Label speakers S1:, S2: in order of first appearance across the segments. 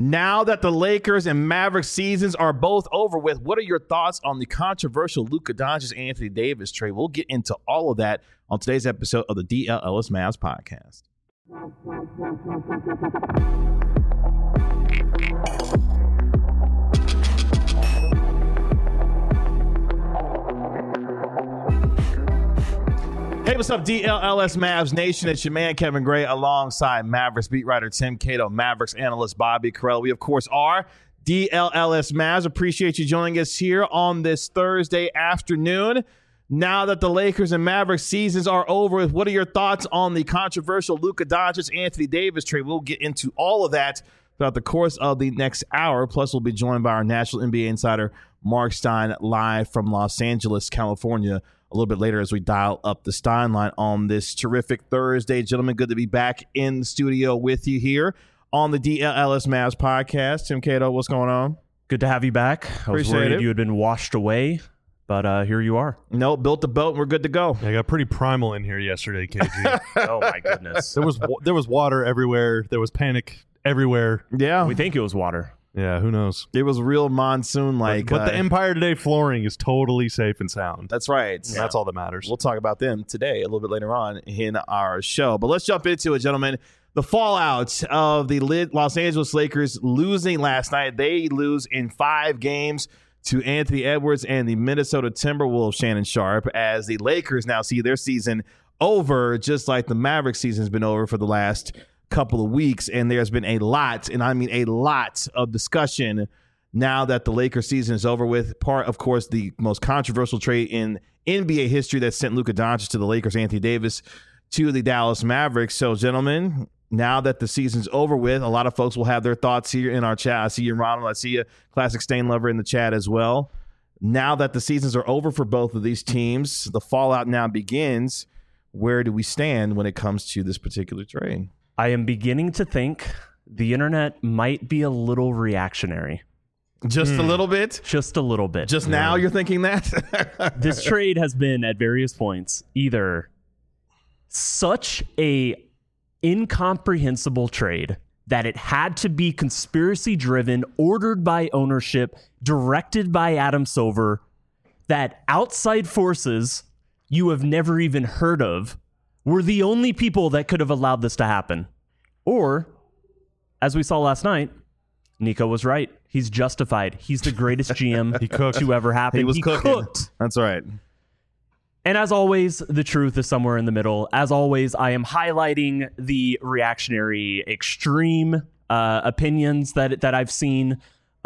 S1: Now that the Lakers and Mavericks seasons are both over with, what are your thoughts on the controversial Luka Doncic Anthony Davis trade? We'll get into all of that on today's episode of the DLLS Mavs podcast. Hey, what's up, DLLS Mavs Nation? It's your man, Kevin Gray, alongside Mavericks beat writer Tim Cato, Mavericks analyst Bobby Carell. We, of course, are DLLS Mavs. Appreciate you joining us here on this Thursday afternoon. Now that the Lakers and Mavericks seasons are over with, what are your thoughts on the controversial Luka Doncic Anthony Davis trade? We'll get into all of that throughout the course of the next hour. Plus, we'll be joined by our national NBA insider, Mark Stein, live from Los Angeles, California, a little bit later as we dial up the Stein line on this terrific Thursday. Gentlemen, good to be back in the studio with you here on the DLLS Mavs podcast. Tim Cato, what's going on?
S2: Good to have you back. I was worried you had been washed away, but here you are.
S1: No, built the boat and we're good to go.
S3: Yeah, I got pretty primal in here yesterday, KG.
S2: Oh, my goodness.
S3: There was water everywhere. There was panic everywhere.
S1: Yeah.
S2: We think it was water.
S3: Yeah, who knows?
S1: It was real monsoon-like.
S3: But the Empire Today flooring is totally safe and sound.
S1: That's right.
S3: Yeah. That's all that matters.
S1: We'll talk about them today a little bit later on in our show. But let's jump into it, gentlemen. The fallout of the Los Angeles Lakers losing last night. They lose in 5 games to Anthony Edwards and the Minnesota Timberwolves, Shannon Sharpe, as the Lakers now see their season over, just like the Mavericks season has been over for the last couple of weeks. And there's been a lot, and I mean a lot, of discussion now that the Lakers season is over with. Part, of course, the most controversial trade in NBA history that sent Luka Doncic to the Lakers, Anthony Davis to the Dallas Mavericks. So, gentlemen, now that the season's over with, a lot of folks will have their thoughts here in our chat. I see you, Ronald. I see you, Classic Stain Lover, in the chat as well. Now that the seasons are over for both of these teams, the fallout now begins. Where do we stand when it comes to this particular trade?
S2: I am beginning to think the internet might be a little reactionary.
S1: Just a little bit?
S2: Just a little bit.
S1: Just now you're thinking that?
S2: This trade has been, at various points, either such a incomprehensible trade that it had to be conspiracy driven, ordered by ownership, directed by Adam Silver, that outside forces you have never even heard of were the only people that could have allowed this to happen. Or, as we saw last night, Nico was right. He's justified. He's the greatest GM to ever happen.
S1: He was cooking.
S2: Cooked.
S1: That's right.
S2: And as always, the truth is somewhere in the middle. As always, I am highlighting the reactionary, extreme opinions that I've seen.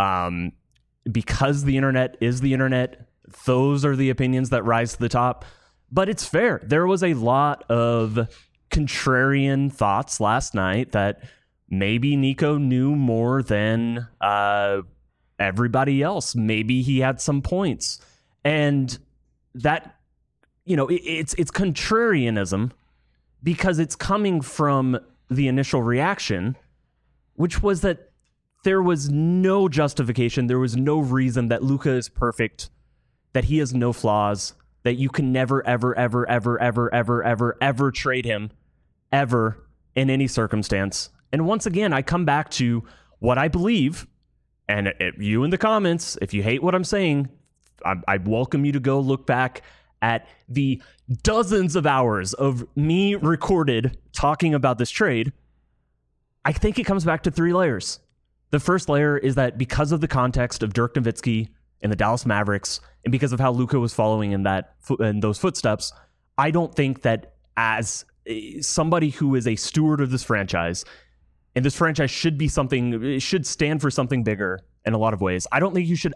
S2: Because the internet is the internet, those are the opinions that rise to the top. But it's fair. There was a lot of contrarian thoughts last night that maybe Nico knew more than everybody else. Maybe he had some points. And that, it's contrarianism because it's coming from the initial reaction, which was that there was no justification. There was no reason that Luka is perfect, that he has no flaws, that you can never, ever, ever, ever, ever, ever, ever, ever trade him, ever, in any circumstance. And once again, I come back to what I believe, and you in the comments, if you hate what I'm saying, I welcome you to go look back at the dozens of hours of me recorded talking about this trade. I think it comes back to 3 layers. The first layer is that because of the context of Dirk Nowitzki and the Dallas Mavericks, and because of how Luka was following in those footsteps, I don't think that as somebody who is a steward of this franchise, and this franchise should be it should stand for something bigger in a lot of ways, I don't think you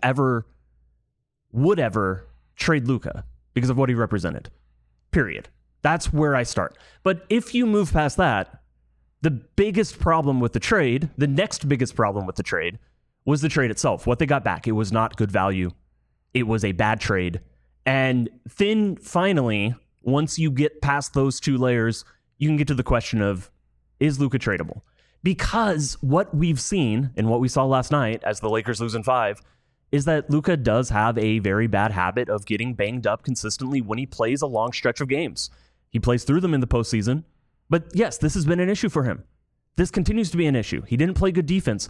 S2: would ever trade Luka because of what he represented. Period. That's where I start. But if you move past that, the biggest problem with the trade, the next biggest problem with the trade, was the trade itself. What they got back, it was not good value. It was a bad trade. And then finally, once you get past those 2 layers, you can get to the question of, is Luka tradable? Because what we've seen and what we saw last night as the Lakers lose in 5 is that Luka does have a very bad habit of getting banged up consistently when he plays a long stretch of games. He plays through them in the postseason. But yes, this has been an issue for him. This continues to be an issue. He didn't play good defense.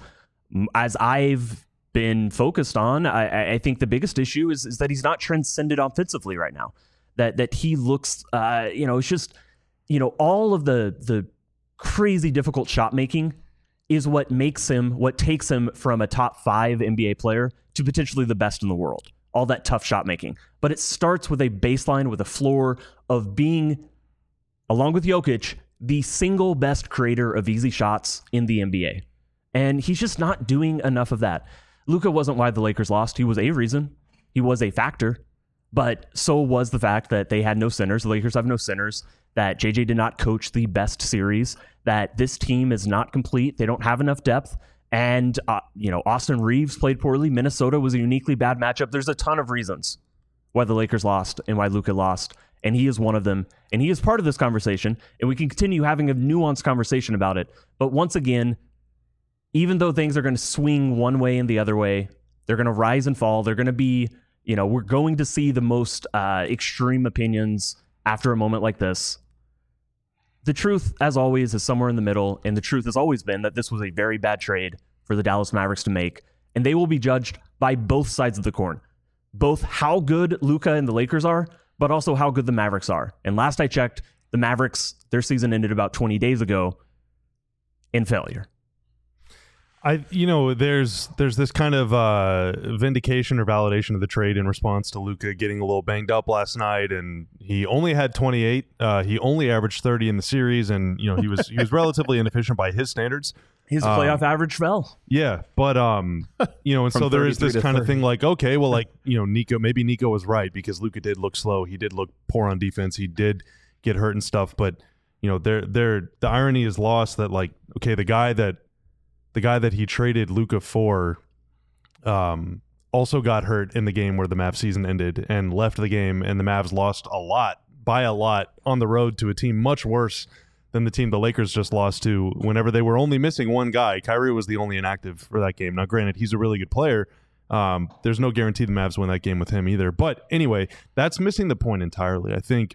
S2: as I've been focused on, I think the biggest issue is that he's not transcended offensively right now. That he looks, it's just, all of the crazy difficult shot making is what takes him from a top 5 NBA player to potentially the best in the world. All that tough shot making. But it starts with a baseline, with a floor of being, along with Jokic, the single best creator of easy shots in the NBA. And he's just not doing enough of that. Luka wasn't why the Lakers lost. He was a reason. He was a factor. But so was the fact that they had no centers. The Lakers have no centers. That JJ did not coach the best series. That this team is not complete. They don't have enough depth. And, Austin Reeves played poorly. Minnesota was a uniquely bad matchup. There's a ton of reasons why the Lakers lost and why Luka lost. And he is one of them. And he is part of this conversation. And we can continue having a nuanced conversation about it. But once again, even though things are going to swing one way and the other way, they're going to rise and fall. They're going to be, we're going to see the most extreme opinions after a moment like this. The truth, as always, is somewhere in the middle, and the truth has always been that this was a very bad trade for the Dallas Mavericks to make, and they will be judged by both sides of the coin. Both how good Luka and the Lakers are, but also how good the Mavericks are. And last I checked, the Mavericks, their season ended about 20 days ago in failure.
S3: There's this kind of vindication or validation of the trade in response to Luka getting a little banged up last night, and he only had 28. He only averaged 30 in the series, and he was relatively inefficient by his standards.
S2: His playoff average fell.
S3: Yeah, but and so there is this kind of thing like, okay, well, Nico was right because Luka did look slow. He did look poor on defense. He did get hurt and stuff, but the irony is lost that the guy that he traded Luka for also got hurt in the game where the Mavs season ended and left the game, and the Mavs lost by a lot on the road to a team much worse than the team the Lakers just lost to whenever they were only missing one guy. Kyrie was the only inactive for that game. Now, granted, he's a really good player. There's no guarantee the Mavs win that game with him either. But anyway, that's missing the point entirely. I think,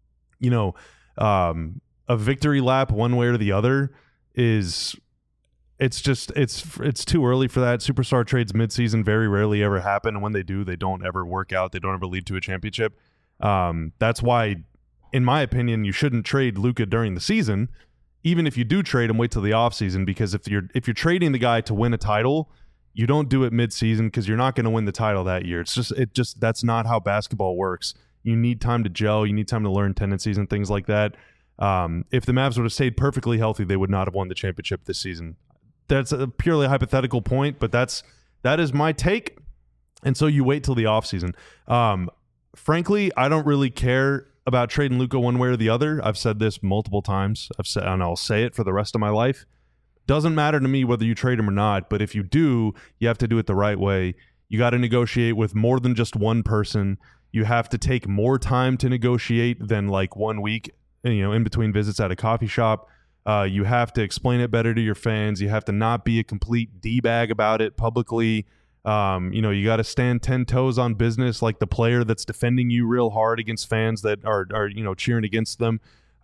S3: a victory lap one way or the other is... It's too early for that. Superstar trades midseason very rarely ever happen, and when they do, they don't ever work out. They don't ever lead to a championship. That's why, in my opinion, you shouldn't trade Luka during the season. Even if you do trade him, wait till the offseason, because if you're trading the guy to win a title, you don't do it midseason because you're not going to win the title that year. That's not how basketball works. You need time to gel. You need time to learn tendencies and things like that. If the Mavs would have stayed perfectly healthy, they would not have won the championship this season. That's a purely hypothetical point, but that is my take. And so you wait till the offseason. Frankly, I don't really care about trading Luka one way or the other. I've said this multiple times. And I'll say it for the rest of my life. Doesn't matter to me whether you trade him or not, but if you do, you have to do it the right way. You got to negotiate with more than just one person. You have to take more time to negotiate than 1 week, in between visits at a coffee shop. You have to explain it better to your fans. You have to not be a complete D-bag about it publicly. You got to stand 10 toes on business like the player that's defending you real hard against fans that are cheering against them.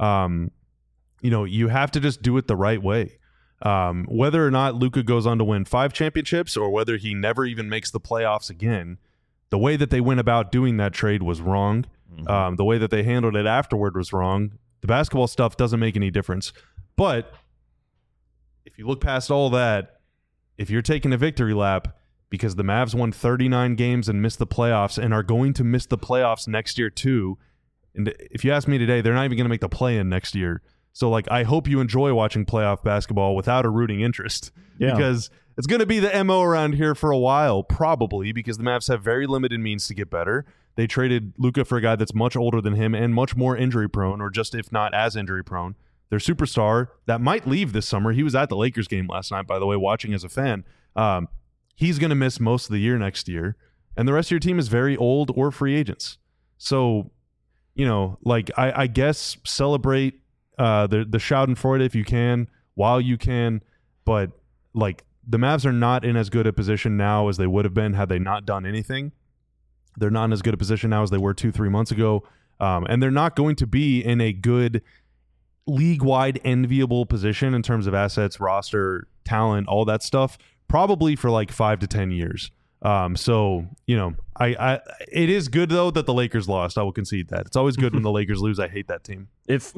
S3: You have to just do it the right way. Whether or not Luka goes on to win 5 championships or whether he never even makes the playoffs again, the way that they went about doing that trade was wrong. The way that they handled it afterward was wrong. The basketball stuff doesn't make any difference. But if you look past all that, if you're taking a victory lap because the Mavs won 39 games and missed the playoffs and are going to miss the playoffs next year too, and if you ask me today, they're not even going to make the play-in next year. So, I hope you enjoy watching playoff basketball without a rooting interest because it's going to be the MO around here for a while, probably, because the Mavs have very limited means to get better. They traded Luka for a guy that's much older than him and much more injury-prone, or just if not as injury-prone. Their superstar that might leave this summer. He was at the Lakers game last night, by the way, watching as a fan. He's going to miss most of the year next year. And the rest of your team is very old or free agents. So, I guess celebrate the Schadenfreude if you can, while you can. But, the Mavs are not in as good a position now as they would have been had they not done anything. They're not in as good a position now as they were 2-3 months ago. And they're not going to be in a good league-wide enviable position in terms of assets, roster, talent, all that stuff probably for like 5 to 10 years. So, you know, I it is good though that the Lakers lost. I will concede that. It's always good when the Lakers lose. I hate that team.
S2: If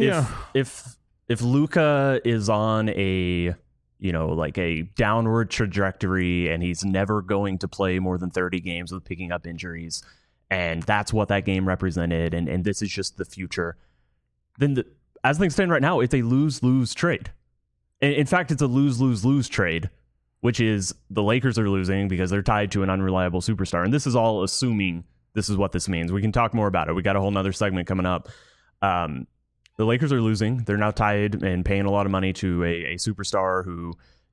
S2: Luka is on a, you know, like a downward trajectory and he's never going to play more than 30 games with picking up injuries, and that's what that game represented, and this is just the future, then as things stand right now, it's a lose-lose trade. In fact, it's a lose-lose-lose trade, which is the Lakers are losing because they're tied to an unreliable superstar. And this is all assuming this is what this means. We can talk more about it. We got a whole nother segment coming up. The Lakers are losing. They're now tied and paying a lot of money to a superstar who,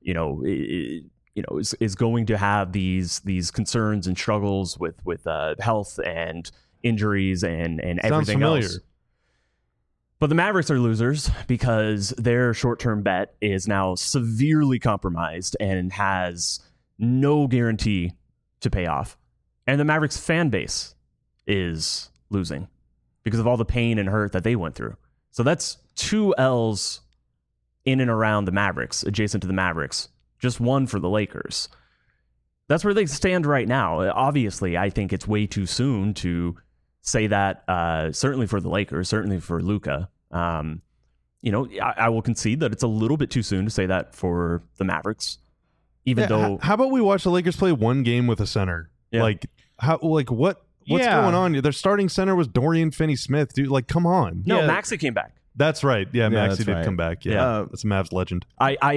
S2: is going to have these concerns and struggles with health and injuries and everything else. But the Mavericks are losers because their short-term bet is now severely compromised and has no guarantee to pay off. And the Mavericks fan base is losing because of all the pain and hurt that they went through. So that's 2 L's in and around the Mavericks, adjacent to the Mavericks. Just 1 for the Lakers. That's where they stand right now. Obviously, I think it's way too soon to say that, certainly for the Lakers, certainly for Luka. I will concede that it's a little bit too soon to say that for the Mavericks, even though.
S3: How about we watch the Lakers play one game with a center?
S2: Yeah.
S3: What's going on? Their starting center was Dorian Finney-Smith, dude. Like, come on.
S2: No, Maxey came back.
S3: That's right. Yeah, Maxey did come back. Yeah, that's a Mavs legend.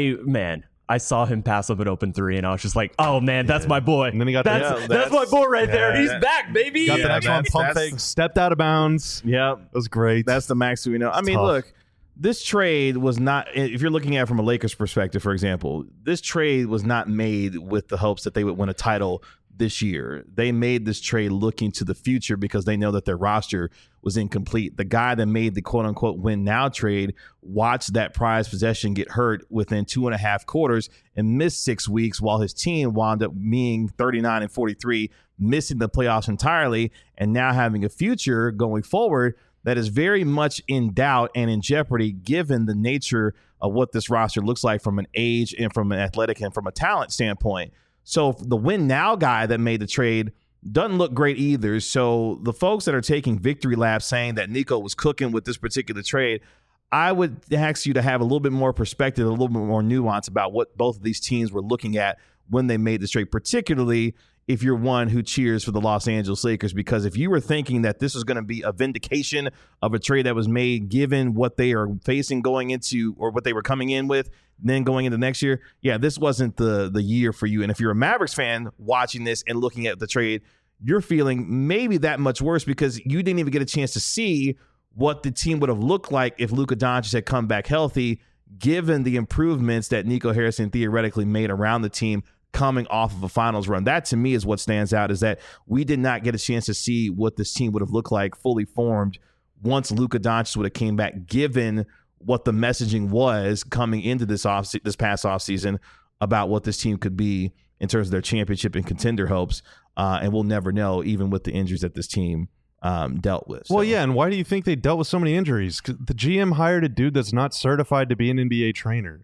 S2: I saw him pass up an open 3, and I was just like, "Oh man, that's my boy."
S3: And then he got
S2: that's my boy right there. He's back, baby.
S3: Got the next one, pump fake, stepped out of bounds.
S1: Yeah,
S3: that was great.
S1: That's the Max we know. I mean, look, this trade was not. If you're looking at it from a Lakers perspective, for example, this trade was not made with the hopes that they would win a title this year. They made this trade looking to the future because they know that their roster was incomplete. The guy that made the quote unquote win now trade watched that prized possession get hurt within 2.5 quarters and missed 6 weeks while his team wound up being 39-43, missing the playoffs entirely, and now having a future going forward that is very much in doubt and in jeopardy given the nature of what this roster looks like from an age and from an athletic and from a talent standpoint. So the win now guy that made the trade doesn't look great either. So the folks that are taking victory laps saying that Nico was cooking with this particular trade, I would ask you to have a little bit more perspective, a little bit more nuance about what both of these teams were looking at when they made this trade, particularly if you're one who cheers for the Los Angeles Lakers, because if you were thinking that this was going to be a vindication of a trade that was made given what they are facing going into or what they were coming in with, then going into next year, this wasn't the year for you. And if you're a Mavericks fan watching this and looking at the trade, you're feeling maybe that much worse because you didn't even get a chance to see what the team would have looked like if Luka Doncic had come back healthy, given the improvements that Nico Harrison theoretically made around the team coming off of a finals run. That to me is what stands out, is that we did not get a chance to see what this team would have looked like fully formed once Luka Doncic would have came back, given what the messaging was coming into this past offseason about what this team could be in terms of their championship and contender hopes. And we'll never know, even with the injuries that this team dealt with.
S3: Well, yeah, and why do you think they dealt with so many injuries? 'Cause the GM hired a dude that's not certified to be an NBA trainer.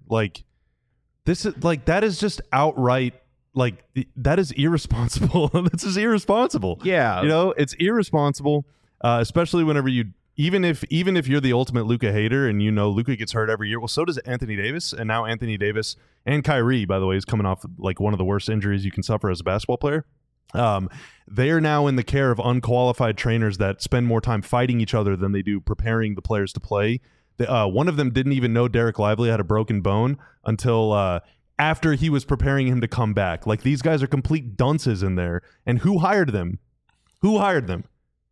S3: That is just outright, that is irresponsible. This is irresponsible.
S1: Yeah.
S3: It's irresponsible, especially whenever even if you're the ultimate Luka hater and Luka gets hurt every year. Well, so does Anthony Davis, and now Anthony Davis and Kyrie, by the way, is coming off one of the worst injuries you can suffer as a basketball player. They are now in the care of unqualified trainers that spend more time fighting each other than they do preparing the players to play. One of them didn't even know Derek Lively had a broken bone until after he was preparing him to come back. These guys are complete dunces in there. And who hired them? Who hired them?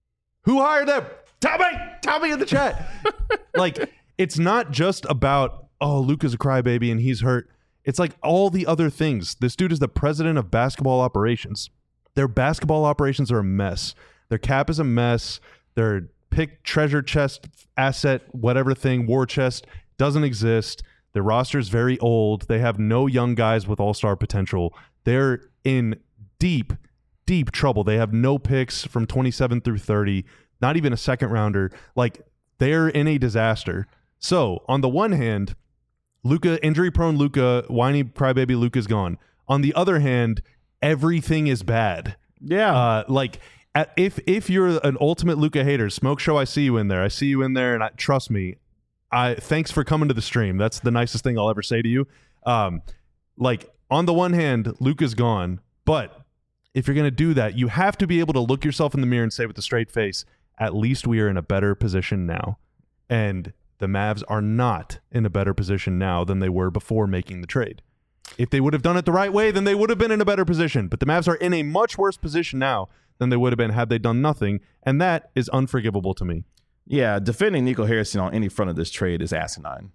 S3: Tell me in the chat. It's not just about, Luka's a crybaby and he's hurt. It's all the other things. This dude is the president of basketball operations. Their basketball operations are a mess. Their cap is a mess. Their pick treasure chest asset, whatever thing, war chest, doesn't exist. Their roster is very old. They have no young guys with all-star potential. They're in deep, deep trouble. They have no picks from 27 through 30, not even a second rounder. They're in a disaster. So on the one hand, Luka, injury-prone Luka, whiny crybaby Luka's gone. On the other hand, everything is bad.
S1: Yeah.
S3: If you're an ultimate Luka hater, Smoke Show, I see you in there. And trust me, thanks for coming to the stream. That's the nicest thing I'll ever say to you. On the one hand, Luka's gone, but if you're going to do that, you have to be able to look yourself in the mirror and say with a straight face, at least we are in a better position now. And the Mavs are not in a better position now than they were before making the trade. If they would have done it the right way, then they would have been in a better position. But the Mavs are in a much worse position now than they would have been had they done nothing. And that is unforgivable to me.
S1: Yeah, defending Nico Harrison on any front of this trade is asinine.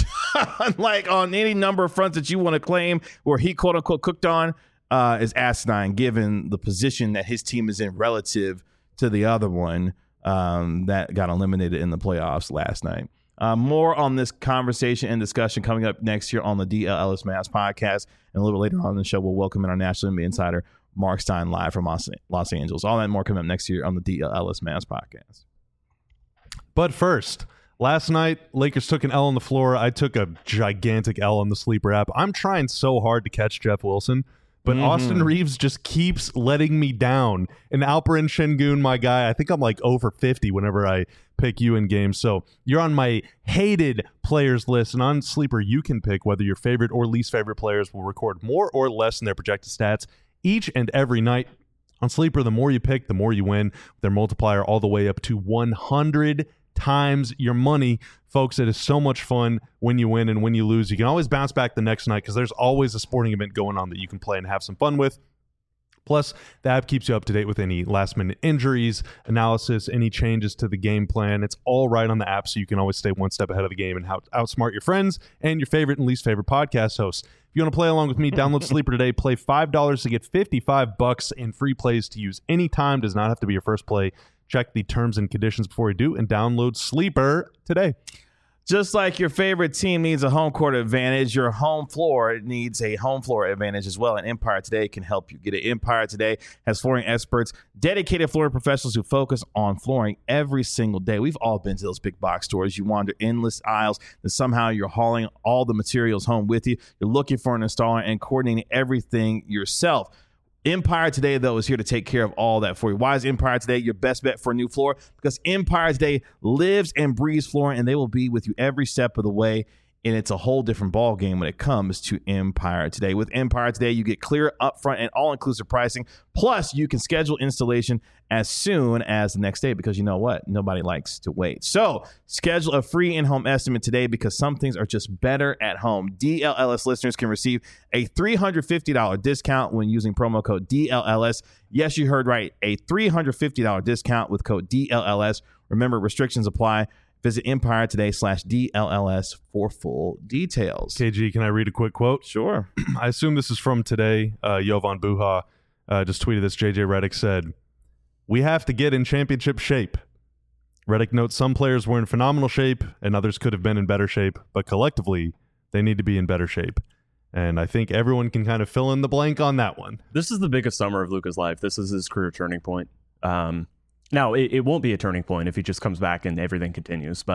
S1: Like on any number of fronts that you want to claim where he quote unquote cooked on is asinine given the position that his team is in relative to the other one that got eliminated in the playoffs last night. More on this conversation and discussion coming up next year on the DL Ellis Mavs podcast. And a little bit later on in the show, we'll welcome in our National NBA insider, Mark Stein, live from Los Angeles. All that and more coming up next year on the DL Ellis Mavs podcast.
S3: But first, last night, Lakers took an L on the floor. I took a gigantic L on the Sleeper app. I'm trying so hard to catch Jeff Wilson, but Austin Reeves just keeps letting me down. And Alperen Şengün, my guy, I think I'm like over 50 whenever I pick you in games. So you're on my hated players list. And on Sleeper, you can pick whether your favorite or least favorite players will record more or less in their projected stats each and every night. On Sleeper, the more you pick, the more you win. Their multiplier all the way up to 100 times your money. Folks, it is so much fun when you win, and when you lose, you can always bounce back the next night because there's always a sporting event going on that you can play and have some fun with. Plus, the app keeps you up to date with any last-minute injuries, analysis, any changes to the game plan. It's all right on the app, so you can always stay one step ahead of the game and outsmart your friends and your favorite and least favorite podcast hosts. If you want to play along with me, download Sleeper today. Play $5 to get $55 in free plays to use anytime. Does not have to be your first play. Check the terms and conditions before you do, and download Sleeper today.
S1: Just like your favorite team needs a home court advantage, your home floor needs a home floor advantage as well. And Empire Today can help you get it. Empire Today has flooring experts, dedicated flooring professionals who focus on flooring every single day. We've all been to those big box stores. You wander endless aisles, and somehow you're hauling all the materials home with you. You're looking for an installer and coordinating everything yourself. Empire Today, though, is here to take care of all that for you. Why is Empire Today your best bet for a new floor? Because Empire Today lives and breathes flooring, and they will be with you every step of the way. And it's a whole different ball game when it comes to Empire Today. With Empire Today, you get clear, upfront, and all-inclusive pricing. Plus, you can schedule installation as soon as the next day because you know what? Nobody likes to wait. So, schedule a free in-home estimate today because some things are just better at home. DLLS listeners can receive a $350 discount when using promo code DLLS. Yes, you heard right. A $350 discount with code DLLS. Remember, restrictions apply. Visit EmpireToday/DLLS for full details.
S3: KG, can I read a quick quote?
S1: Sure.
S3: I assume this is from today. Jovan Buha just tweeted this. JJ Redick said, "We have to get in championship shape." Redick notes some players were in phenomenal shape and others could have been in better shape, but collectively, they need to be in better shape. And I think everyone can kind of fill in the blank on that one.
S2: This is the biggest summer of Luka's life. This is his career turning point. Now, it won't be a turning point if he just comes back and everything continues,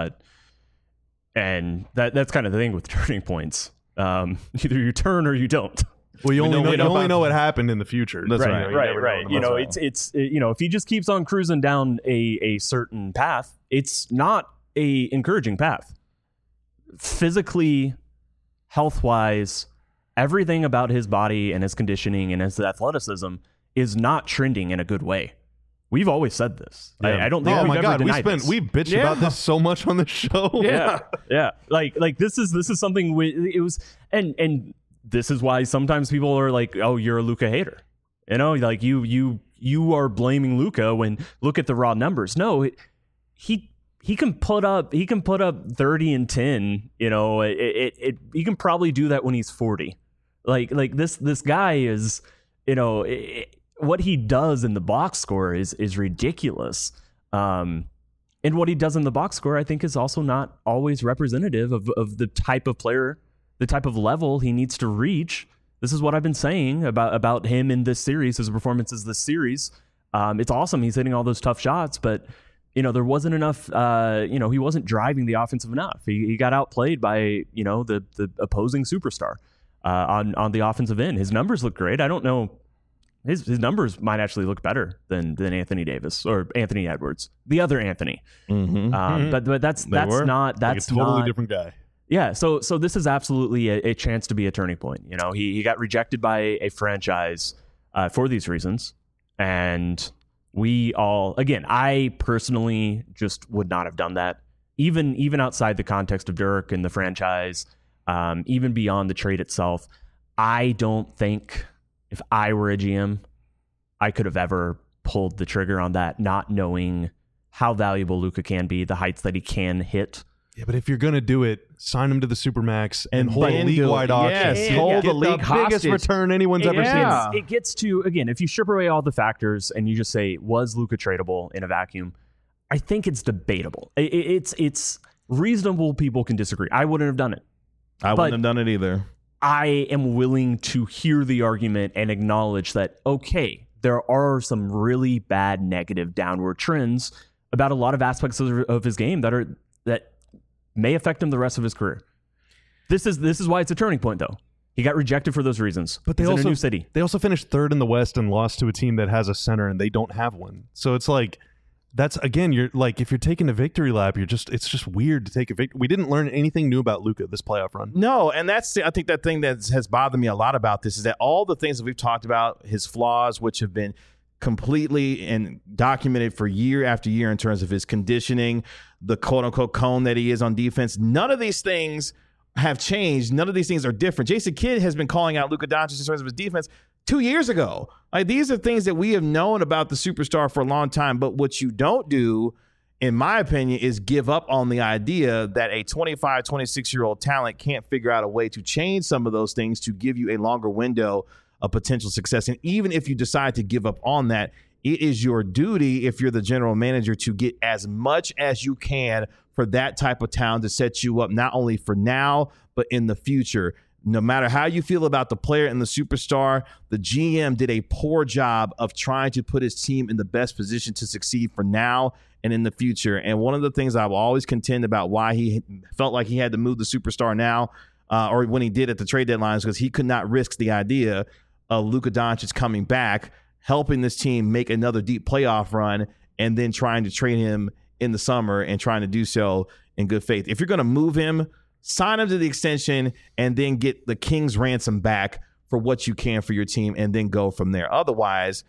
S2: and that's kind of the thing with turning points. Either you turn or you don't.
S3: Well, you only know what happened in the future.
S1: That's
S2: right. It's if he just keeps on cruising down a certain path, it's not a encouraging path. Physically, health-wise, everything about his body and his conditioning and his athleticism is not trending in a good way. We've always said this.
S3: Yeah.
S2: I don't think we've ever denied this.
S3: We've bitched about this so much on the show.
S2: Yeah. Like this is something it was, and this is why sometimes people are like, "Oh, you're a Luka hater." You know, like you are blaming Luka when look at the raw numbers. No, he can put up 30 and 10. You know, he can probably do that when he's 40. Like this guy is, you know. What he does in the box score is ridiculous. And what he does in the box score, I think, is also not always representative of the type of player, the type of level he needs to reach. This is what I've been saying about him in this series, his performances this series. It's awesome. He's hitting all those tough shots, but there wasn't enough, he wasn't driving the offensive enough. He got outplayed by, the opposing superstar. on the offensive end. His numbers look great. I don't know. His numbers might actually look better than Anthony Davis or Anthony Edwards, the other Anthony. But that's not
S3: like a totally different guy.
S2: Yeah, so this is absolutely a chance to be a turning point. You know, he got rejected by a franchise for these reasons, and we all, again, I personally just would not have done that, even outside the context of Dirk and the franchise, even beyond the trade itself. I don't think if I were a GM, I could have ever pulled the trigger on that, not knowing how valuable Luka can be, the heights that he can hit.
S3: Yeah, but if you're going to do it, sign him to the Supermax and hold a
S1: then
S3: league-wide auction.
S1: Yes, hold the league
S3: biggest
S1: hostage.
S3: return anyone's ever seen.
S2: It gets to, again, if you strip away all the factors and you just say, was Luka tradable in a vacuum? I think it's debatable. It's reasonable. People can disagree. I wouldn't have done it.
S1: I wouldn't have done it either.
S2: I am willing to hear the argument and acknowledge that, okay, there are some really bad negative downward trends about a lot of aspects of his game that may affect him the rest of his career. This is why it's a turning point, though. He got rejected for those reasons.
S3: But
S2: He's in a new city.
S3: They also finished third in the West and lost to a team that has a center and they don't have one. So it's like, that's, again, you're like, if you're taking a victory lap, it's just weird to take a victory. We didn't learn anything new about Luka this playoff run.
S1: No, and that's, I think, that thing that has bothered me a lot about this is that all the things that we've talked about, his flaws, which have been completely and documented for year after year in terms of his conditioning, the quote-unquote cone that he is on defense, none of these things have changed. None of these things are different. Jason Kidd has been calling out Luka Doncic in terms of his defense 2 years ago. Like, these are things that we have known about the superstar for a long time, but what you don't do, in my opinion, is give up on the idea that a 25, 26-year-old talent can't figure out a way to change some of those things to give you a longer window of potential success. And even if you decide to give up on that, it is your duty, if you're the general manager, to get as much as you can for that type of talent to set you up not only for now, but in the future. No matter how you feel about the player and the superstar, the GM did a poor job of trying to put his team in the best position to succeed for now and in the future. And one of the things I will always contend about why he felt like he had to move the superstar now, or when he did at the trade deadline, is because he could not risk the idea of Luka Doncic coming back, helping this team make another deep playoff run, and then trying to trade him in the summer and trying to do so in good faith. If you're going to move him, sign him to the extension and then get the king's ransom back for what you can for your team and then go from there. Otherwise,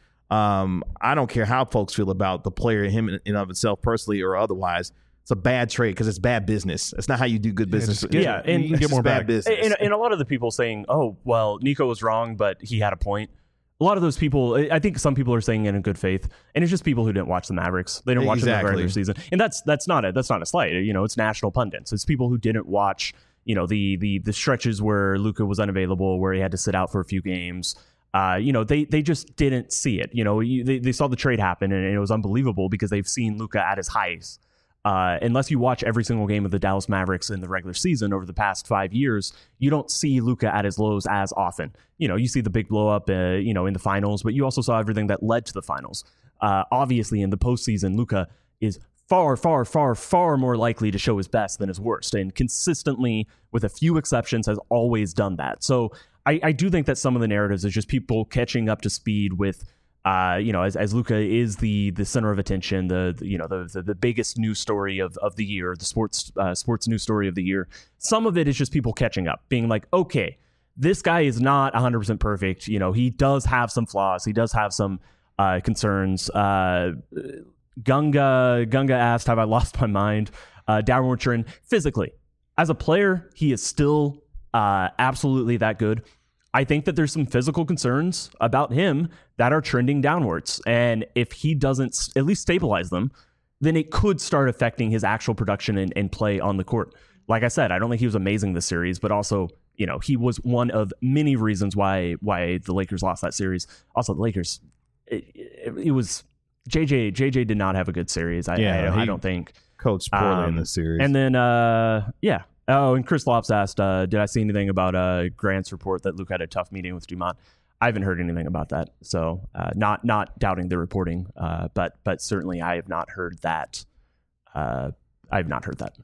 S1: I don't care how folks feel about the player, him in and of himself personally or otherwise. It's a bad trade because it's bad business. It's not how you do good business.
S2: And you
S1: can get more bad business.
S2: And a lot of the people saying, oh, well, Nico was wrong, but he had a point. A lot of those people, I think some people are saying it in good faith, and it's just people who didn't watch the Mavericks. They didn't watch them in the regular season, and that's not a slight. You know, it's national pundits. It's people who didn't watch, you know, the stretches where Luka was unavailable, where he had to sit out for a few games. You know, they just didn't see it. You know, they saw the trade happen, and it was unbelievable because they've seen Luka at his highest. Unless you watch every single game of the Dallas Mavericks in the regular season over the past 5 years, you don't see Luka at his lows as often. You know, you see the big blow up, you know, in the finals, but you also saw everything that led to the finals. Obviously, in the postseason, Luka is far, far, far, far more likely to show his best than his worst, and consistently, with a few exceptions, has always done that. So I do think that some of the narratives is just people catching up to speed with, you know, as Luka is the center of attention, the biggest news story of the year, the sports news story of the year. Some of it is just people catching up, being like, okay, this guy is not 100% perfect. You know, he does have some flaws. He does have some concerns. Gunga asked, have I lost my mind? Downward trend physically. As a player, he is still absolutely that good. I think that there's some physical concerns about him that are trending downwards. And if he doesn't at least stabilize them, then it could start affecting his actual production and play on the court. Like I said, I don't think he was amazing this series, but also, you know, he was one of many reasons why the Lakers lost that series. Also, the Lakers, it was JJ did not have a good series. I don't think.
S1: Coached poorly in this series.
S2: And then, yeah. Oh, and Chris Lops asked, did I see anything about Grant's report that Luke had a tough meeting with Dumont? I haven't heard anything about that. So not doubting the reporting, but certainly I have not heard that. I have not heard that.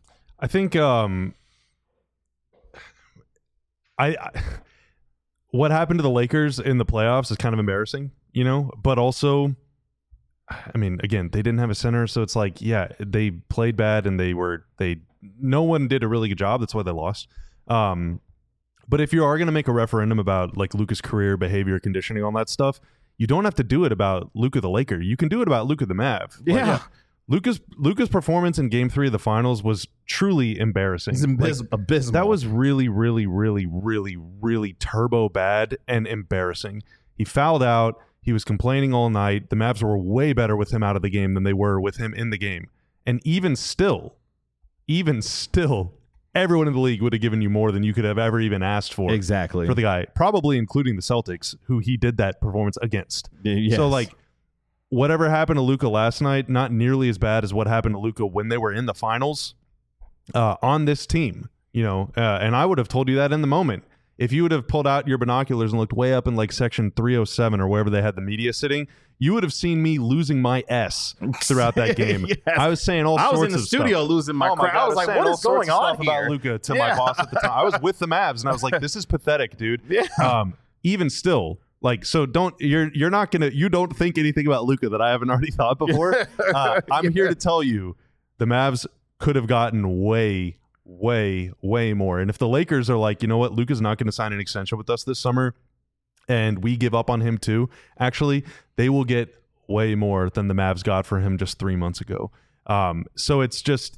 S3: what happened to the Lakers in the playoffs is kind of embarrassing, but also, I mean, again, they didn't have a center, so it's like, yeah, they played bad and no one did a really good job. That's why they lost. But if you are going to make a referendum about like Luka's career, behavior, conditioning, all that stuff, you don't have to do it about Luka the Laker. You can do it about Luka the Mav.
S1: Yeah.
S3: Luka's performance in Game 3 of the Finals was truly embarrassing.
S1: It's abysmal.
S3: That was really, really, really, really, really turbo bad and embarrassing. He fouled out. He was complaining all night. The Mavs were way better with him out of the game than they were with him in the game. And even still, everyone in the league would have given you more than you could have ever even asked for.
S1: Exactly.
S3: For the guy, probably including the Celtics, who he did that performance against.
S1: Yes.
S3: So, like, whatever happened to Luka last night, not nearly as bad as what happened to Luka when they were in the finals on this team. And I would have told you that in the moment. If you would have pulled out your binoculars and looked way up in like section 307 or wherever they had the media sitting, you would have seen me losing my S throughout that game.
S1: Yes.
S3: I was saying all sorts of stuff.
S1: I was in the studio losing my crap.
S3: God,
S1: I was like, what is going on here?
S3: About Luka to my boss at the time. I was with the Mavs and I was like, this is pathetic, dude.
S1: Yeah.
S3: Even still, like, so you're not gonna, you don't think anything about Luka that I haven't already thought before. I'm here to tell you the Mavs could have gotten way more. And if the Lakers are like, you know what, Luka's not going to sign an extension with us this summer and we give up on him too, actually, they will get way more than the Mavs got for him just 3 months ago. So it's just,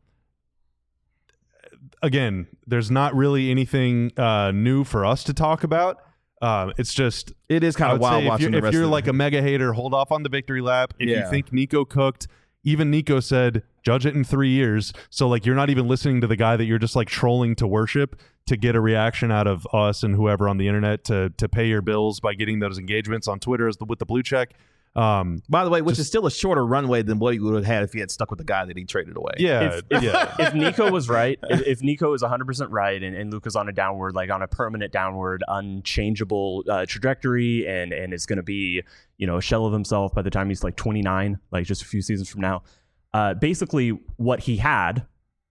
S3: again, there's not really anything new for us to talk about. It's just,
S1: it is kind of wild watching the rest
S3: if you're
S1: of
S3: like a mega hater, hold off on the victory lap. If
S1: Yeah.
S3: you think Nico cooked, even Nico said, judge it in 3 years. So like, you're not even listening to the guy that you're just like trolling to worship to get a reaction out of us and whoever on the internet to pay your bills by getting those engagements on Twitter with the blue check.
S1: By the way, which is still a shorter runway than what he would have had if he had stuck with the guy that he traded away.
S3: Yeah.
S2: If Nico was right, if Nico is 100% right and Luka's on a downward, like on a permanent downward, unchangeable trajectory and is going to be, a shell of himself by the time he's like 29, like just a few seasons from now. Basically, what he had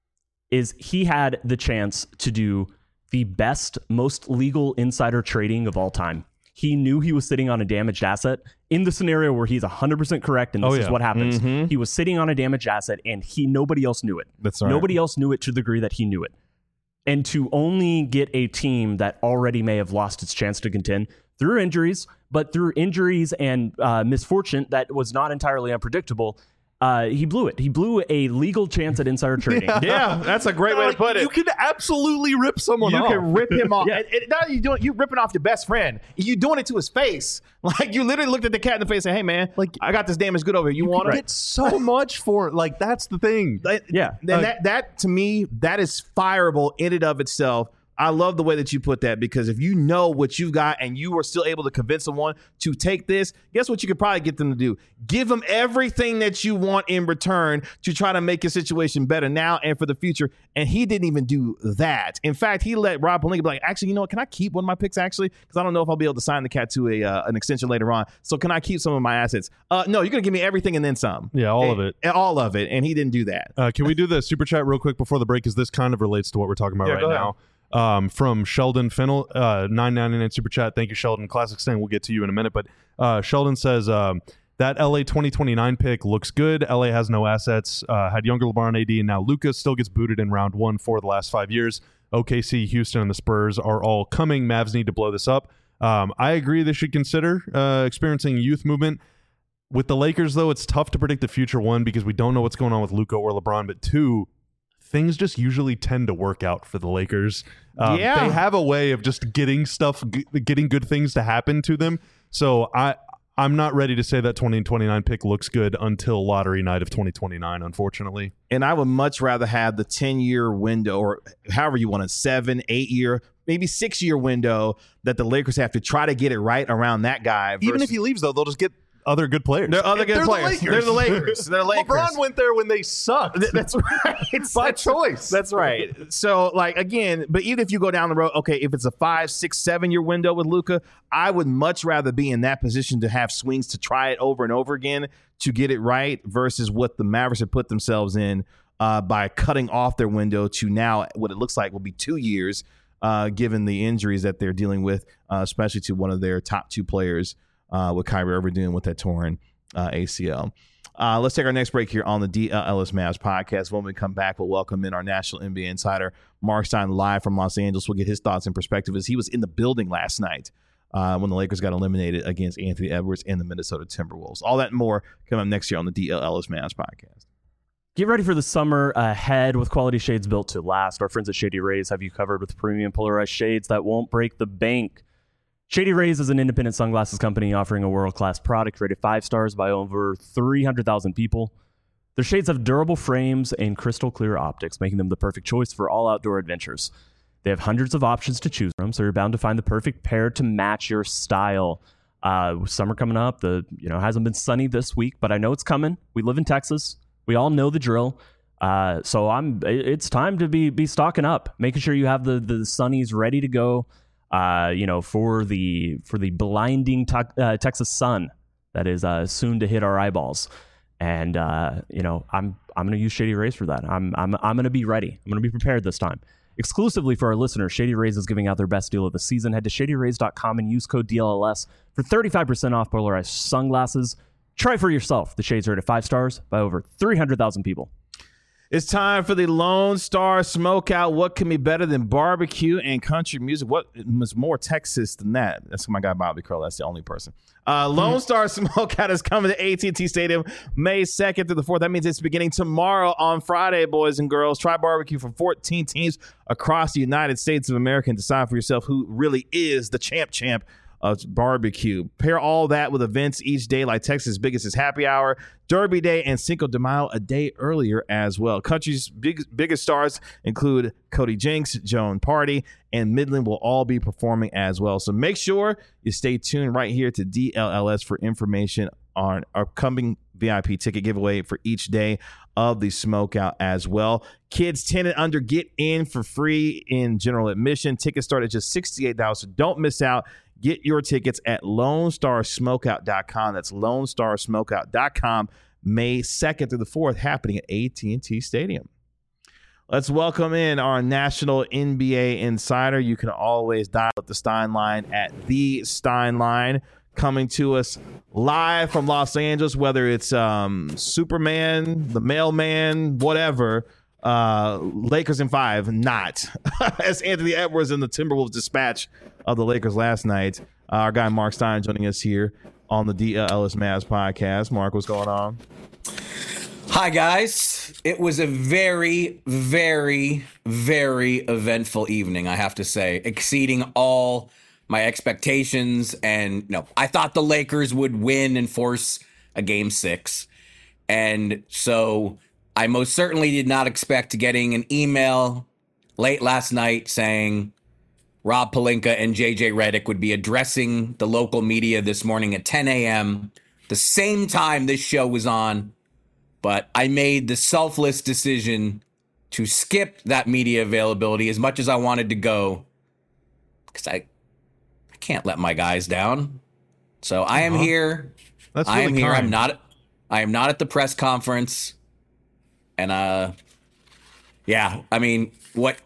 S2: is he had the chance to do the best, most legal insider trading of all time. He knew he was sitting on a damaged asset in the scenario where he's 100% correct, and this is what happens. Mm-hmm. He was sitting on a damaged asset, and nobody else knew it.
S1: That's right.
S2: Nobody else knew it to the degree that he knew it. And to only get a team that already may have lost its chance to contend through injuries, but through injuries and misfortune that was not entirely unpredictable, he blew it. He blew a legal chance at insider trading.
S1: Yeah, that's a great way to put it.
S3: You can absolutely rip someone off.
S1: You can rip him off.
S2: Yeah.
S1: And now you're ripping off your best friend. You're doing it to his face. Like, you literally looked at the cat in the face and said, hey, man, like, I got this damaged good over here. You want it?
S3: Get so much for it. Like, that's the thing.
S2: Yeah.
S1: And that to me, that is fireable in and of itself. I love the way that you put that, because if you know what you've got and you are still able to convince someone to take this, guess what you could probably get them to do? Give them everything that you want in return to try to make your situation better now and for the future. And he didn't even do that. In fact, he let Rob Pelinka be like, actually, you know what? Can I keep one of my picks, actually? Because I don't know if I'll be able to sign the cat to an extension later on. So can I keep some of my assets? No, you're going to give me everything and then some.
S3: Yeah, all of it.
S1: All of it. And he didn't do that.
S3: Can we do the super chat real quick before the break? Because this kind of relates to what we're talking about right now. From Sheldon Fennell, $9.99 super chat. Thank you, Sheldon. Classic Sting. We'll get to you in a minute. But Sheldon says that LA 2029 pick looks good. LA has no assets. Had younger LeBron, AD, and now Luka. Still gets booted in round 1 for the last 5 years. OKC, Houston, and the Spurs are all coming. Mavs need to blow this up. I agree they should consider experiencing youth movement. With the Lakers, though, it's tough to predict the future. 1, because we don't know what's going on with Luka or LeBron. But 2, things just usually tend to work out for the Lakers. They have a way of just getting good things to happen to them. So I'm not ready to say that 2029 pick looks good until lottery night of 2029, unfortunately.
S1: And I would much rather have the 10-year window, or however you want it, 7, 8-year, maybe 6-year window that the Lakers have to try to get it right around that guy.
S3: Even if he leaves, though, they'll just get other good players.
S1: They're other good players. They're the Lakers. They're the Lakers.
S3: LeBron went there when they sucked.
S1: That's right.
S3: By choice.
S1: That's right. So, like, again, but even if you go down the road, okay, if it's a 5, 6, 7-year window with Luka, I would much rather be in that position to have swings to try it over and over again to get it right versus what the Mavericks have put themselves in by cutting off their window to now what it looks like will be 2 years. given the injuries that they're dealing with, especially to one of their top two players with Kyrie Irving dealing with that torn ACL. Let's take our next break here on the DLS Mavs podcast. When we come back, we'll welcome in our national NBA insider, Mark Stein, live from Los Angeles. We'll get his thoughts and perspective as he was in the building last night when the Lakers got eliminated against Anthony Edwards and the Minnesota Timberwolves. All that and more coming up next year on the DLS Mavs podcast.
S2: Get ready for the summer ahead with quality shades built to last. Our friends at Shady Rays have you covered with premium polarized shades that won't break the bank. Shady Rays is an independent sunglasses company offering a world-class product rated 5 stars by over 300,000 people. Their shades have durable frames and crystal clear optics, making them the perfect choice for all outdoor adventures. They have hundreds of options to choose from, so you're bound to find the perfect pair to match your style. Summer coming up, hasn't been sunny this week, but I know it's coming. We live in Texas. We all know the drill. So it's time to be stocking up, making sure you have the sunnies ready to go. For the blinding Texas sun that is soon to hit our eyeballs, and I'm going to use Shady Rays for that. I'm going to be ready. I'm going to be prepared this time. Exclusively for our listeners, Shady Rays is giving out their best deal of the season. Head to ShadyRays.com and use code DLLS for 35% off polarized sunglasses. Try for yourself. The shades are rated 5 stars by over 300,000 people.
S1: It's time for the Lone Star Smokeout. What can be better than barbecue and country music? What is more Texas than that? That's my guy, Bobby Curl. That's the only person. Lone Star Smokeout is coming to AT&T Stadium May 2nd through the 4th. That means it's beginning tomorrow on Friday, boys and girls. Try barbecue from 14 teams across the United States of America and decide for yourself who really is the champ of barbecue. Pair all that with events each day like Texas' biggest happy hour, Derby Day, and Cinco de Mayo a day earlier as well. Country's biggest stars include Cody Jinks, Joan Party, and Midland will all be performing as well. So make sure you stay tuned right here to DLLS for information on our upcoming VIP ticket giveaway for each day of the Smokeout as well. Kids 10 and under get in for free in general admission. Tickets start at just $68, so don't miss out. Get your tickets at LoneStarSmokeout.com. That's LoneStarSmokeout.com. May 2nd through the 4th, happening at AT&T Stadium. Let's welcome in our national NBA insider. You can always dial up the Stein line at the Stein line. Coming to us live from Los Angeles, whether it's Superman, the mailman, whatever. Lakers in 5, not. As Anthony Edwards and the Timberwolves dispatch of the Lakers last night. Our guy Mark Stein joining us here on the DLS Mavs podcast. Mark, what's going on?
S4: Hi, guys. It was a very, very, very eventful evening, I have to say, exceeding all my expectations. And I thought the Lakers would win and force a Game 6. And so I most certainly did not expect getting an email late last night saying Rob Pelinka and JJ Redick would be addressing the local media this morning at 10 a.m., the same time this show was on. But I made the selfless decision to skip that media availability as much as I wanted to go, because I can't let my guys down. So I am here.
S1: That's really
S4: I am here.
S1: kind.
S4: I am not at the press conference. And yeah, I mean what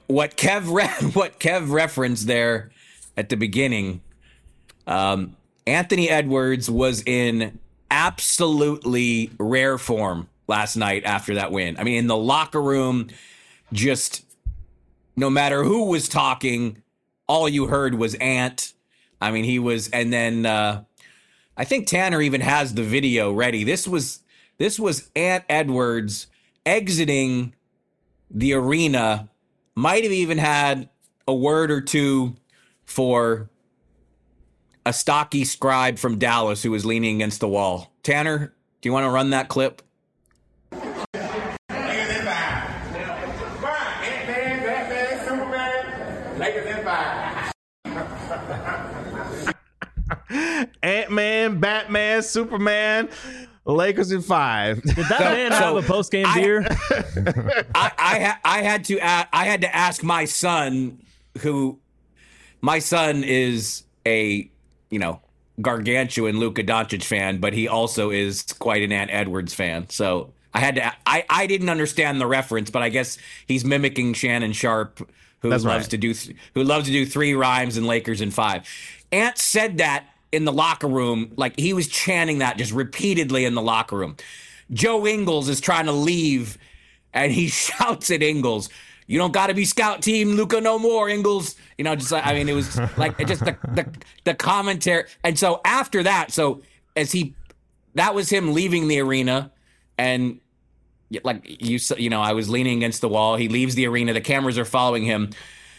S4: Kev referenced there at the beginning. Anthony Edwards was in absolutely rare form last night after that win. I mean, in the locker room, just no matter who was talking, all you heard was Ant. I mean, he was, and then I think Tanner even has the video ready. This was Ant Edwards exiting the arena, might have even had a word or two for a stocky scribe from Dallas who was leaning against the wall. Tanner, do you want to run that clip?
S1: Ant-Man, Batman, Superman, Lakers in 5.
S2: Did that man have a post-game beer?
S4: I had to ask my son, who my son is a gargantuan Luka Doncic fan, but he also is quite an Ant Edwards fan. So I didn't understand the reference, but I guess he's mimicking Shannon Sharp who
S1: That's
S4: loves
S1: right.
S4: to do who loves to do 3 rhymes and Lakers in 5. Ant said that in the locker room, like he was chanting that just repeatedly in the locker room. Joe Ingles is trying to leave, and he shouts at Ingles, "You don't got to be scout team Luka no more, Ingles." You know, just like, I mean, it was like just the commentary. And so after that, that was him leaving the arena, and like you know, I was leaning against the wall. He leaves the arena. The cameras are following him.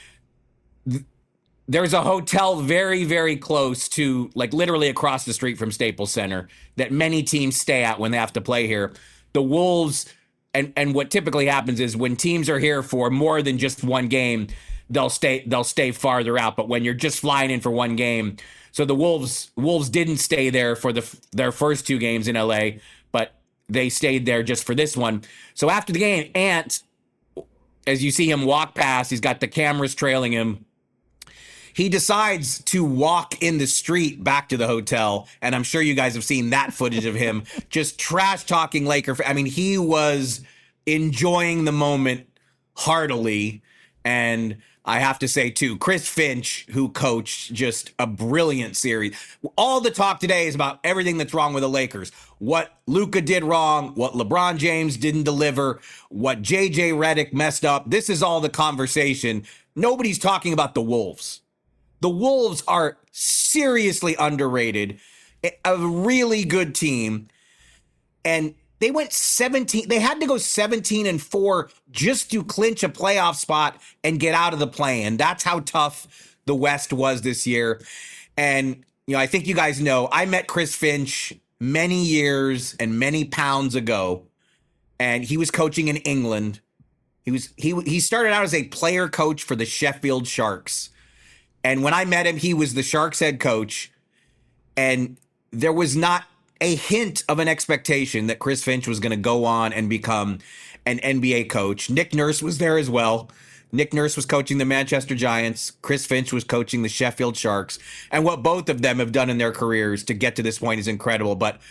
S4: There's a hotel very, very close to, like literally across the street from Staples Center, that many teams stay at when they have to play here. The Wolves, and what typically happens is when teams are here for more than just one game, they'll stay farther out. But when you're just flying in for one game, so the Wolves didn't stay there for their first 2 games in LA, but they stayed there just for this one. So after the game, Ant, as you see him walk past, he's got the cameras trailing him. He decides to walk in the street back to the hotel, and I'm sure you guys have seen that footage of him just trash talking Laker. I mean, he was enjoying the moment heartily, and I have to say too, Chris Finch, who coached just a brilliant series. All the talk today is about everything that's wrong with the Lakers. What Luka did wrong, what LeBron James didn't deliver, what JJ Redick messed up. This is all the conversation. Nobody's talking about the Wolves. The Wolves are seriously underrated, a really good team, and they went 17. They had to go 17-4 just to clinch a playoff spot and get out of the play-in. That's how tough the West was this year. And you know, I think you guys know, I met Chris Finch many years and many pounds ago, and he was coaching in England. He started out as a player coach for the Sheffield Sharks. And when I met him, he was the Sharks head coach, and there was not a hint of an expectation that Chris Finch was going to go on and become an NBA coach. Nick Nurse was there as well. Nick Nurse was coaching the Manchester Giants. Chris Finch was coaching the Sheffield Sharks. And what both of them have done in their careers to get to this point is incredible. But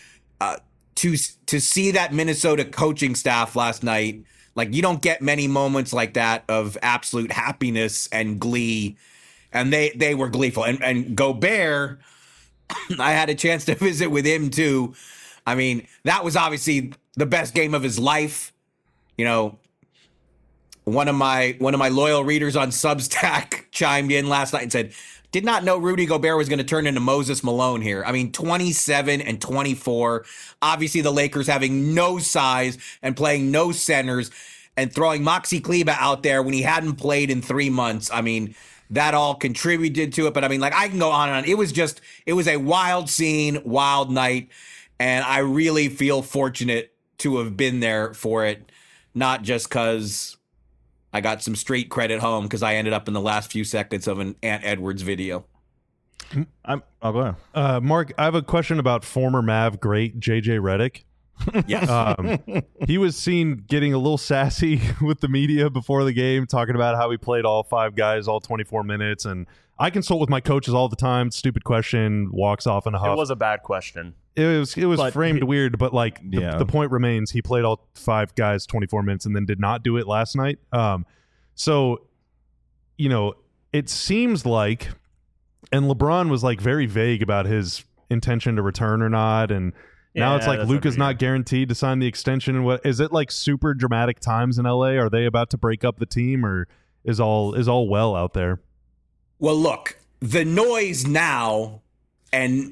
S4: to see that Minnesota coaching staff last night, like, you don't get many moments like that of absolute happiness and glee. And they were gleeful. And Gobert, I had a chance to visit with him too. I mean, that was obviously the best game of his life. You know, one of my loyal readers on Substack chimed in last night and said, did not know Rudy Gobert was going to turn into Moses Malone here. I mean, 27 and 24. Obviously, the Lakers having no size and playing no centers and throwing Maxi Kleber out there when he hadn't played in 3 months. I mean, that all contributed to it. But I mean, like, I can go on and on. It was a wild scene, wild night. And I really feel fortunate to have been there for it. Not just because I got some street credit home, because I ended up in the last few seconds of an Ant Edwards video.
S1: I'll go ahead.
S3: Mark, I have a question about former Mav great JJ Redick.
S4: Yes.
S3: He was seen getting a little sassy with the media before the game, talking about how he played all 5 guys all 24 minutes. And I consult with my coaches all the time. Stupid question, walks off in a huff.
S2: It was a bad question.
S3: It was framed weird, but like the point remains, he played all 5 guys 24 minutes and then did not do it last night. So, you know, it seems like, and LeBron was like very vague about his intention to return or not, and now it's like Luka's not guaranteed to sign the extension. And what is it, like super dramatic times in LA? Are they about to break up the team, or is all well out there?
S4: Well, look, the noise now, and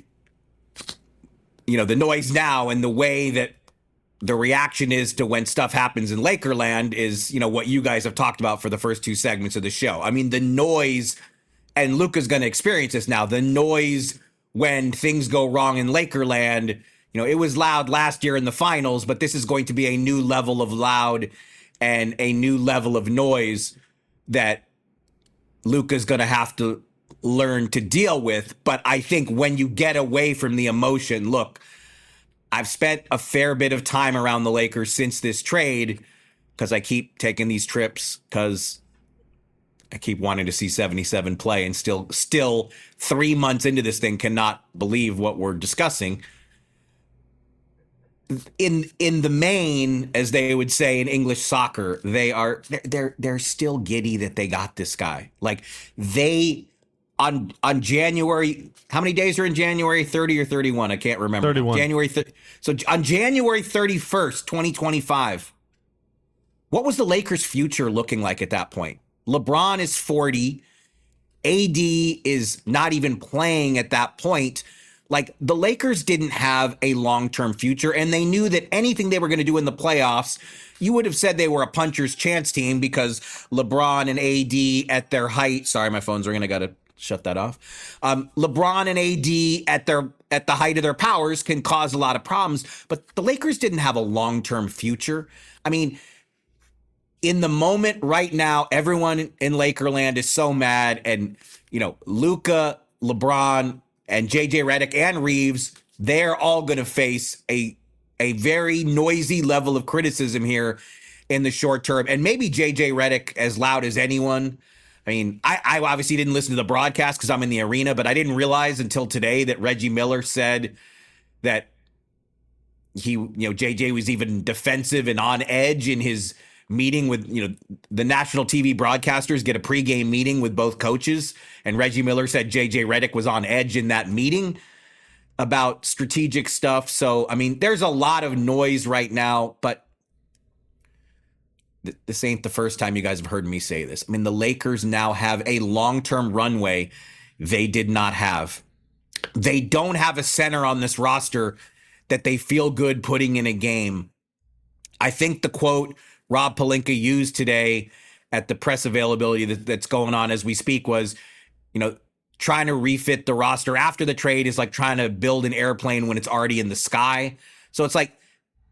S4: the way that the reaction is to when stuff happens in Lakerland is, you know, what you guys have talked about for the first 2 segments of the show. I mean, the noise, and Luka's going to experience this now, the noise when things go wrong in Lakerland. You know, it was loud last year in the finals, but this is going to be a new level of loud and a new level of noise that Luka's going to have to learn to deal with. But I think when you get away from the emotion, look, I've spent a fair bit of time around the Lakers since this trade, because I keep taking these trips because I keep wanting to see 77 play, and still 3 months into this thing cannot believe what we're discussing. in the main, as they would say in English soccer, they're still giddy that they got this guy. Like they on January, how many days are in January? 30 or 31? I can't remember.
S3: 31.
S4: So on January 31st, 2025, what was the Lakers' future looking like at that point? LeBron is 40. AD is not even playing at that point. Like the Lakers didn't have a long-term future, and they knew that anything they were going to do in the playoffs, you would have said they were a puncher's chance team because LeBron and AD at their height. Sorry, my phone's ringing. I got to shut that off. LeBron and AD at the height of their powers can cause a lot of problems, but the Lakers didn't have a long-term future. I mean, in the moment right now, everyone in Lakerland is so mad, and Luka, LeBron, and JJ Redick and Reeves, they're all going to face a very noisy level of criticism here in the short term. And maybe JJ Redick as loud as anyone. I mean, I obviously didn't listen to the broadcast because I'm in the arena, but I didn't realize until today that Reggie Miller said that JJ was even defensive and on edge in his meeting with, the national TV broadcasters get a pregame meeting with both coaches. And Reggie Miller said JJ Redick was on edge in that meeting about strategic stuff. So, I mean, there's a lot of noise right now, but this ain't the first time you guys have heard me say this. I mean, the Lakers now have a long-term runway they did not have. They don't have a center on this roster that they feel good putting in a game. I think the quote Rob Pelinka used today at the press availability that's going on as we speak was, trying to refit the roster after the trade is like trying to build an airplane when it's already in the sky. So it's like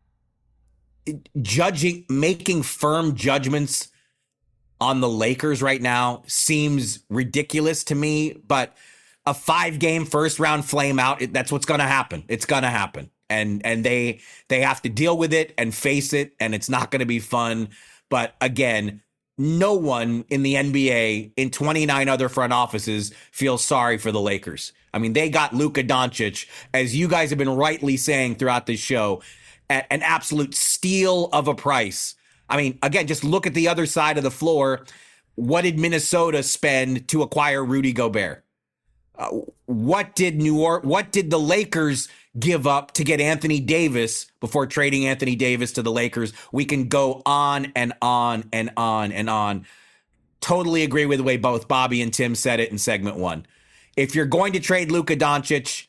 S4: making firm judgments on the Lakers right now seems ridiculous to me, but a 5-game first round flame out, that's what's going to happen. It's going to happen. And they have to deal with it and face it, and it's not going to be fun. But again, no one in the NBA in 29 other front offices feels sorry for the Lakers. I mean, they got Luka Doncic, as you guys have been rightly saying throughout this show, at an absolute steal of a price. I mean, again, just look at the other side of the floor. What did Minnesota spend to acquire Rudy Gobert? What did the Lakers give up to get Anthony Davis before trading Anthony Davis to the Lakers? We can go on and on and on and on. Totally agree with the way both Bobby and Tim said it in segment 1. If you're going to trade Luka Doncic,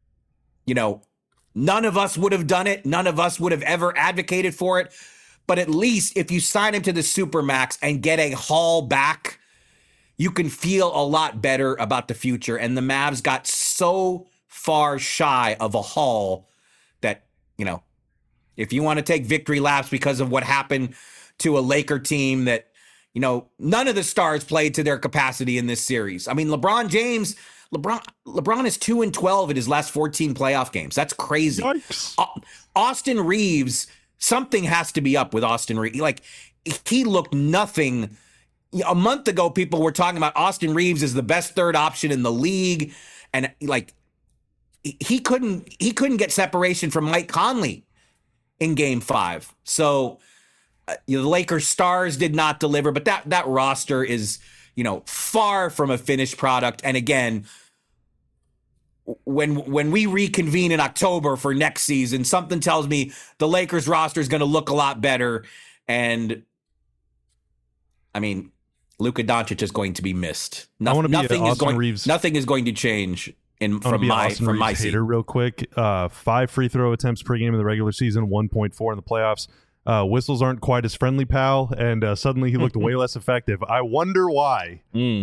S4: none of us would have done it. None of us would have ever advocated for it. But at least if you sign him to the Supermax and get a haul back, you can feel a lot better about the future. And the Mavs got so far shy of a haul that, if you want to take victory laps because of what happened to a Laker team that, none of the stars played to their capacity in this series. I mean, LeBron is 2-12 in his last 14 playoff games. That's crazy. Austin Reeves, something has to be up with Austin Reeves. Like, he looked nothing. A month ago, people were talking about Austin Reeves as the best third option in the league. And like, he couldn't get separation from Mike Conley in game 5. So the Lakers stars did not deliver, but that roster is, far from a finished product. And again, when we reconvene in October for next season, something tells me the Lakers roster is going to look a lot better. And I mean, Luka Doncic is going to be missed. Nothing is going to change from my seat.
S3: Hater real quick. 5 free throw attempts per game in the regular season, 1.4 in the playoffs. Whistles aren't quite as friendly, pal, and suddenly he looked way less effective. I wonder why.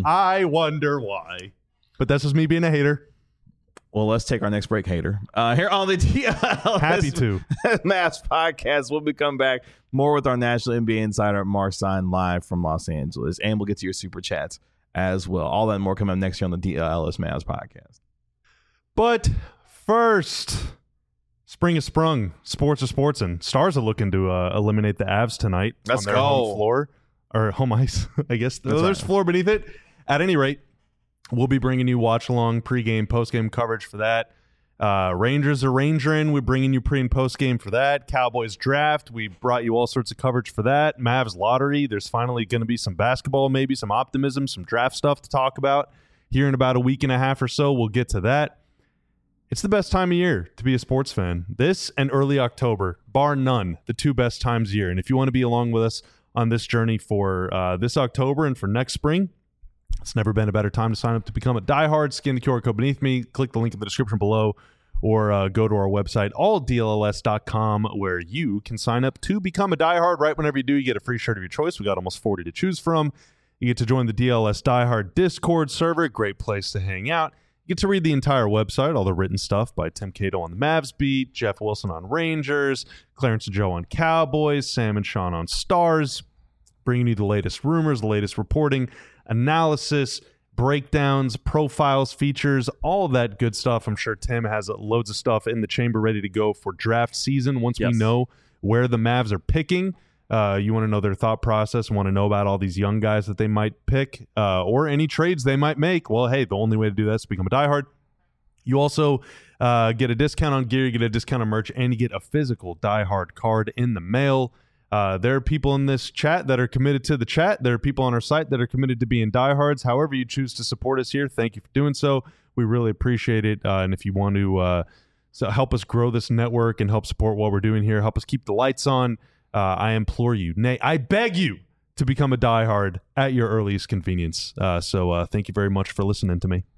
S3: But that's just me being a hater.
S1: Well, let's take our next break, hater. Here on the DLS
S3: Happy to.
S1: Mavs podcast, we'll be coming back more with our national NBA insider, Mark Stein, live from Los Angeles. And we'll get to your super chats as well. All that and more coming up next year on the DLS Mavs podcast.
S3: But first, spring has sprung. Sports are sports, and Stars are looking to eliminate the Avs tonight on their home floor. Or home ice, I guess. There's floor beneath it. At any rate, we'll be bringing you watch-along pregame, postgame coverage for that. Rangers are rangering. We're bringing you pre and post game for that. Cowboys draft. We brought you all sorts of coverage for that. Mavs lottery. There's finally going to be some basketball, maybe some optimism, some draft stuff to talk about here in about a week and a half or so. We'll get to that. It's the best time of year to be a sports fan. This and early October, bar none, the two best times of year. And if you want to be along with us on this journey for this October and for next spring, it's never been a better time to sign up to become a diehard. Scan the QR code beneath me, click the link in the description below, or go to our website, alldlls.com, where you can sign up to become a diehard. Right whenever you do, you get a free shirt of your choice. We got almost 40 to choose from. You get to join the DLS Diehard Discord server. Great place to hang out. You get to read the entire website, all the written stuff by Tim Cato on the Mavs beat, Jeff Wilson on Rangers, Clarence and Joe on Cowboys, Sam and Sean on Stars, bringing you the latest rumors, the latest reporting, analysis, breakdowns, profiles, features, all of that good stuff. I'm sure Tim has loads of stuff in the chamber ready to go for draft season. Once we know where the Mavs are picking, you want to know their thought process, want to know about all these young guys that they might pick, or any trades they might make. Well, hey, the only way to do that is to become a diehard. You also get a discount on gear, you get a discount on merch, and you get a physical diehard card in the mail. There are people in this chat that are committed to the chat. There are people on our site that are committed to being diehards. However you choose to support us here, thank you for doing so. We really appreciate it. And if you want to help us grow this network and help support what we're doing here, help us keep the lights on, I implore you, nay, I beg you to become a diehard at your earliest convenience. So thank you very much for listening to me.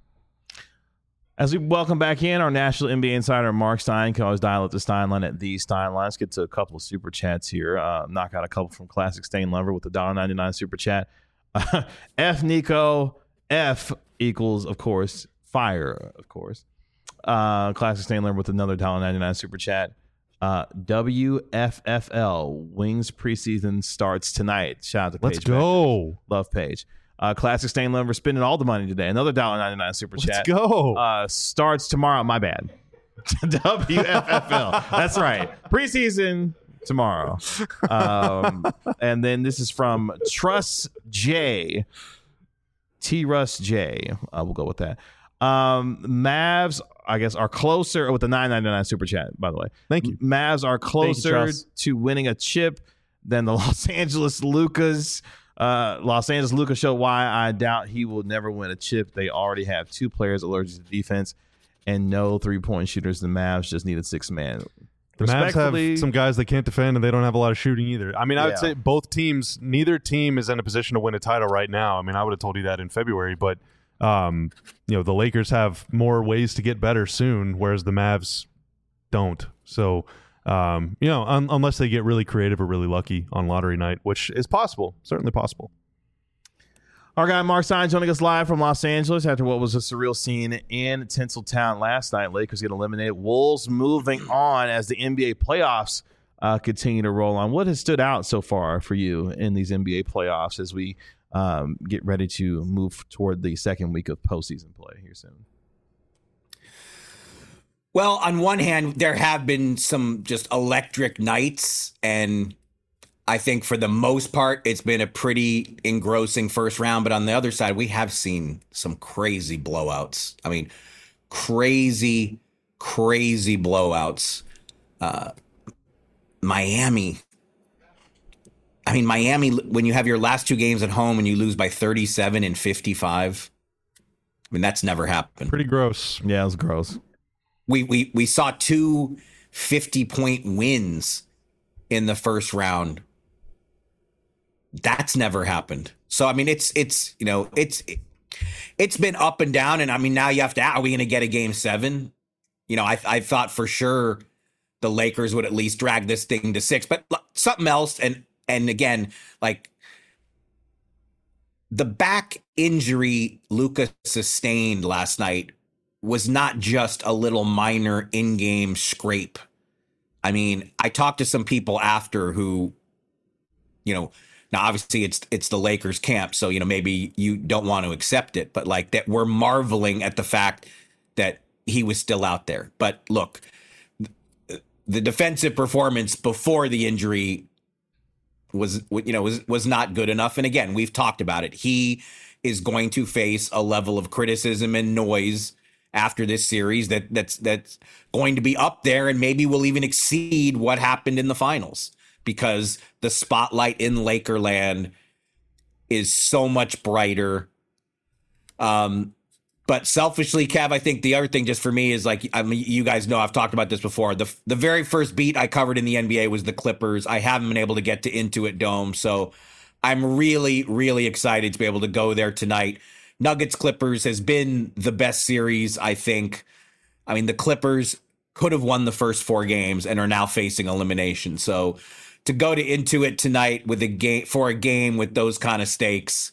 S1: As we welcome back in our National NBA insider, Mark Stein. Can always dial up the Stein line at the Stein line. Let's get to a couple of super chats here. Knock out a couple from Classic Stain Lover with the $1.99 super chat. F Nico, F equals, of course, fire, of course. Classic Stain Lover with another $1.99 super chat. WFFL, Wings preseason starts tonight. Shout out to Paige.
S3: Let's go.
S1: Love Paige. Classic Stain Lover spending all the money today. Another $1.99 super chat.
S3: Let's go.
S1: Starts tomorrow. My bad. WFFL. That's right. Preseason tomorrow. And then this is from Truss J. T. Russ J. We'll go with that. Mavs, I guess, are closer with the $9.99 super chat, by the way.
S3: Thank you.
S1: Mavs are closer to winning a chip than the Los Angeles Lucas. Los Angeles Lucas showed why I doubt he will never win a chip. They already have two players allergic to defense and no three-point shooters. The Mavs just needed six man.
S3: The Mavs have some guys that can't defend, and they don't have a lot of shooting either. I mean, I would say both teams, neither team is in a position to win a title right now. I mean, I would have told you that in February, but the Lakers have more ways to get better soon, whereas the Mavs don't. So, unless they get really creative or really lucky on lottery night, which is possible, certainly possible.
S1: Our guy Mark Stein joining us live from Los Angeles after what was a surreal scene in Tinseltown last night. Lakers get eliminated. Wolves moving on as the NBA playoffs continue to roll on. What has stood out so far for you in these NBA playoffs as we get ready to move toward the second week of postseason play here soon?
S4: Well, on one hand, there have been some just electric nights, and I think for the most part, it's been a pretty engrossing first round. But on the other side, we have seen some crazy blowouts. I mean, crazy blowouts. Miami, when you have your last two games at home and you lose by 37 and 55, I mean, that's never happened.
S3: Pretty gross.
S1: Yeah, it was gross.
S4: We saw two 50-point wins in the first round. That's never happened. So I mean, it's been up and down, and I mean, now you have to. Are we going to get a game 7? I thought for sure the Lakers would at least drag this thing to 6, but something else. And again, like the back injury Luka sustained last night was not just a little minor in-game scrape. I mean, I talked to some people after who, now obviously it's the Lakers camp, so maybe you don't want to accept it, but like that we're marveling at the fact that he was still out there. But look, the defensive performance before the injury was not good enough. And again, we've talked about it. He is going to face a level of criticism and noise after this series that's going to be up there and maybe will even exceed what happened in the finals, because the spotlight in Lakerland is so much brighter. But selfishly, Kev, I think the other thing just for me is, like, I mean, you guys know I've talked about this before. The very first beat I covered in the NBA was the Clippers. I haven't been able to get to Intuit Dome, so I'm really, really excited to be able to go there tonight. Nuggets Clippers has been the best series, I think. I mean, the Clippers could have won the first 4 games and are now facing elimination. So to go to Intuit tonight with a game with those kind of stakes,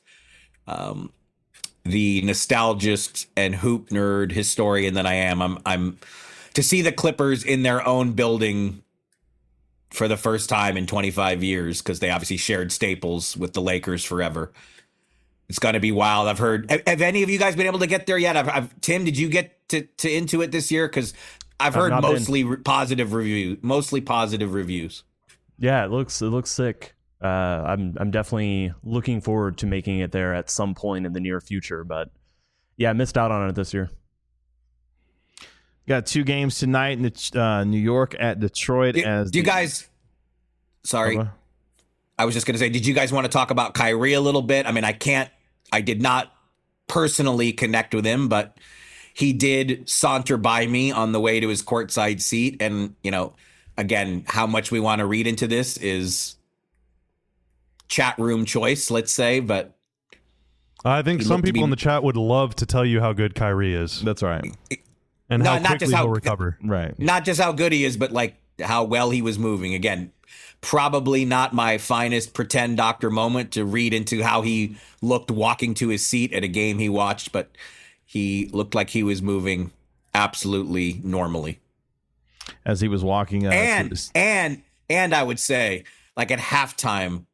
S4: the nostalgist and hoop nerd historian that I am, I'm to see the Clippers in their own building for the first time in 25 years, because they obviously shared staples with the Lakers forever. It's going to be wild. I've heard. Have any of you guys been able to get there yet? Tim, did you get to Intuit this year? Because I've heard mostly positive reviews.
S2: Yeah, it looks sick. I'm definitely looking forward to making it there at some point in the near future, but yeah, I missed out on it this year.
S1: Got 2 games tonight in New York at Detroit.
S4: Do you guys? Sorry, I was just going to say, did you guys want to talk about Kyrie a little bit? I mean, I did not personally connect with him, but he did saunter by me on the way to his courtside seat, and again, how much we want to read into this is chat room choice, let's say, but
S3: I think some people in the chat would love to tell you how good Kyrie is.
S1: That's right.
S3: And how quickly he'll recover.
S1: Right.
S4: Not just how good he is, but like how well he was moving. Again, probably not my finest pretend doctor moment to read into how he looked walking to his seat at a game he watched, but he looked like he was moving absolutely normally
S1: as he was walking.
S4: And I would say, like, at halftime,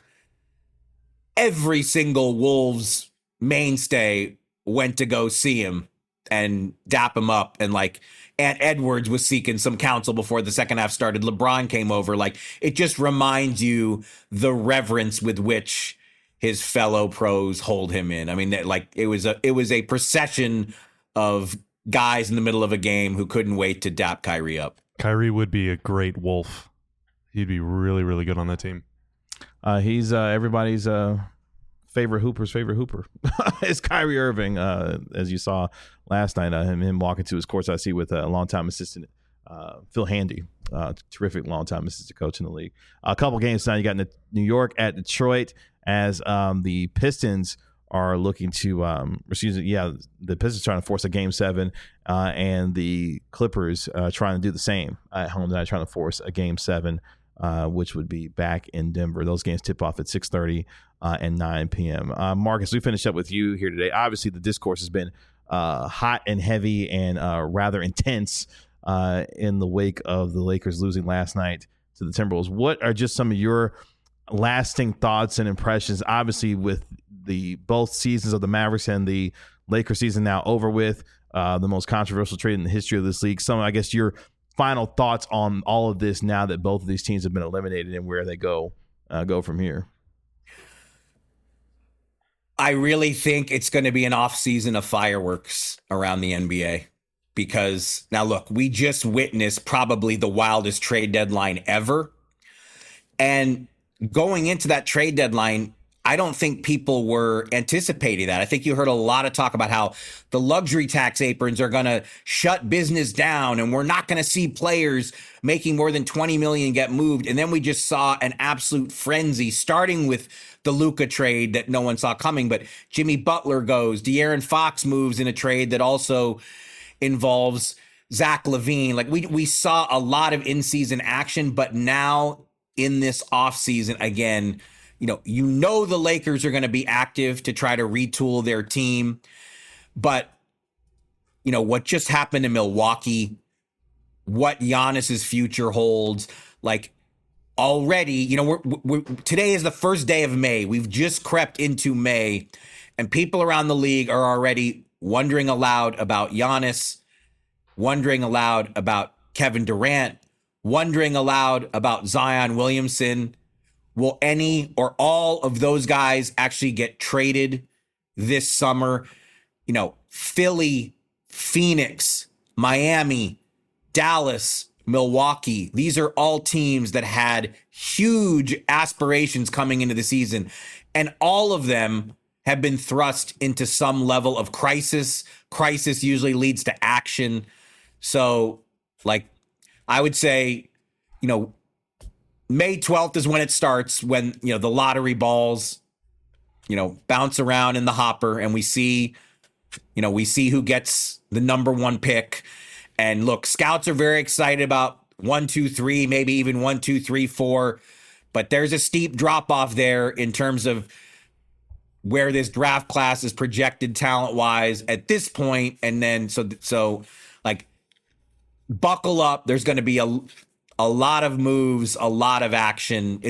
S4: every single Wolves mainstay went to go see him and dap him up. And like Ant Edwards was seeking some counsel before the second half started. LeBron came over. Like, it just reminds you the reverence with which his fellow pros hold him in. I mean, it was a procession of guys in the middle of a game who couldn't wait to dap Kyrie up.
S3: Kyrie would be a great Wolf. He'd be really, really good on that team.
S1: He's everybody's favorite hooper. It's Kyrie Irving, as you saw last night. Him walking to his courtside seat with a longtime assistant, Phil Handy, terrific longtime assistant coach in the league. A couple games now. You got New York at Detroit, as the Pistons are looking to the Pistons trying to force a game 7, and the Clippers trying to do the same at home tonight, trying to force a game 7. Which would be back in Denver. Those games tip off at 6:30 and 9 p.m. Marcus, we finish up with you here today. Obviously, the discourse has been hot and heavy and rather intense in the wake of the Lakers losing last night to the Timberwolves. What are just some of your lasting thoughts and impressions? Obviously, with the both seasons of the Mavericks and the Lakers season now over with, the most controversial trade in the history of this league. Some, I guess, your final thoughts on all of this now that both of these teams have been eliminated and where they go from here.
S4: I really think it's going to be an off season of fireworks around the NBA, because now look, we just witnessed probably the wildest trade deadline ever. And going into that trade deadline, I don't think people were anticipating that. I think you heard a lot of talk about how the luxury tax aprons are going to shut business down and we're not going to see players making more than 20 million get moved. And then we just saw an absolute frenzy, starting with the Luka trade that no one saw coming. But Jimmy Butler goes, De'Aaron Fox moves in a trade that also involves Zach LaVine. Like, we saw a lot of in-season action, but now in this offseason, again, the Lakers are going to be active to try to retool their team. But, what just happened in Milwaukee, what Giannis's future holds, like, already, today is the first day of May. We've just crept into May, and people around the league are already wondering aloud about Giannis, wondering aloud about Kevin Durant, wondering aloud about Zion Williamson. Will any or all of those guys actually get traded this summer? Philly Phoenix, Miami, Dallas, Milwaukee. These are all teams that had huge aspirations coming into the season, and all of them have been thrust into some level of crisis. Crisis usually leads to action. So, like, I would say, May 12th is when it starts, when, the lottery balls, bounce around in the hopper, and we see who gets the number one pick. And look, scouts are very excited about 1, 2, 3, maybe even 1, 2, 3, 4. But there's a steep drop off there in terms of where this draft class is projected talent wise at this point. And then so like, buckle up. There's going to be a lot of moves, a lot of action.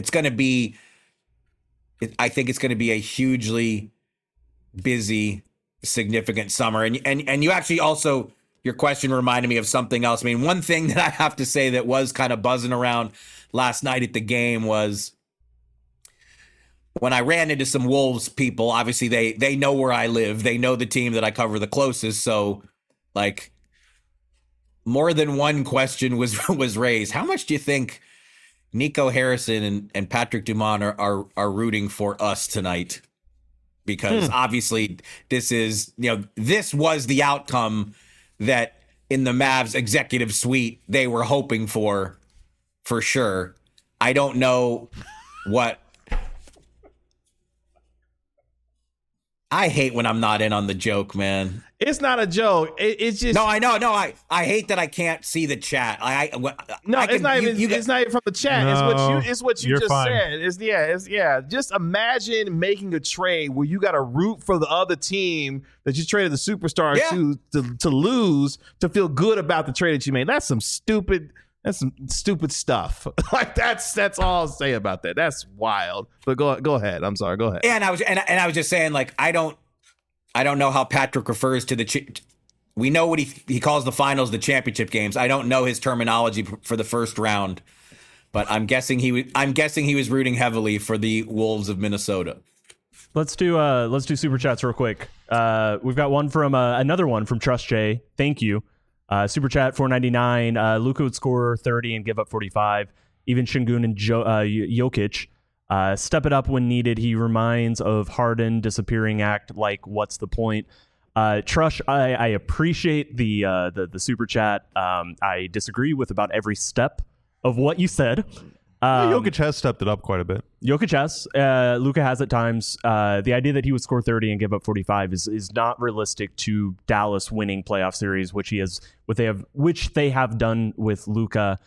S4: I think it's going to be a hugely busy, significant summer. And you actually also, your question reminded me of something else. I mean, one thing that I have to say that was kind of buzzing around last night at the game was when I ran into some Wolves people. Obviously, they know where I live. They know the team that I cover the closest. So, like, more than one question was raised. How much do you think Nico Harrison and Patrick Dumont are rooting for us tonight? Because obviously this was the outcome that in the Mavs executive suite they were hoping for sure. I don't know what. I hate when I'm not in on the joke, man.
S1: It's not a joke. It's just
S4: no. I know. No, I hate that I can't see the chat.
S1: It's not even from the chat.
S3: No,
S1: it's what you just
S3: fine.
S1: said. Just imagine making a trade where you got to root for the other team that you traded the superstar to lose to feel good about the trade that you made. That's some stupid stuff. Like that's all I'll say about that. That's wild. But go ahead. I'm sorry. Go ahead.
S4: And I was just saying, like, I don't know how Patrick refers to we know what he calls the finals, the championship games. I don't know his terminology for the first round, but I'm guessing he was rooting heavily for the Wolves of Minnesota.
S2: Let's do super chats real quick. We've got one from another one from Trust J. Thank you. Super chat $4.99. Luka would score 30 and give up 45. Even Şengün and Jokic step it up when needed. He reminds of Harden disappearing act. Like, what's the point? Trush, I appreciate the super chat. I disagree with about every step of what you said.
S3: Jokic has stepped it up quite a bit.
S2: Jokic has. Luka has at times. The idea that he would score 30 and give up 45 is not realistic to Dallas winning playoff series, which they have done with Luka.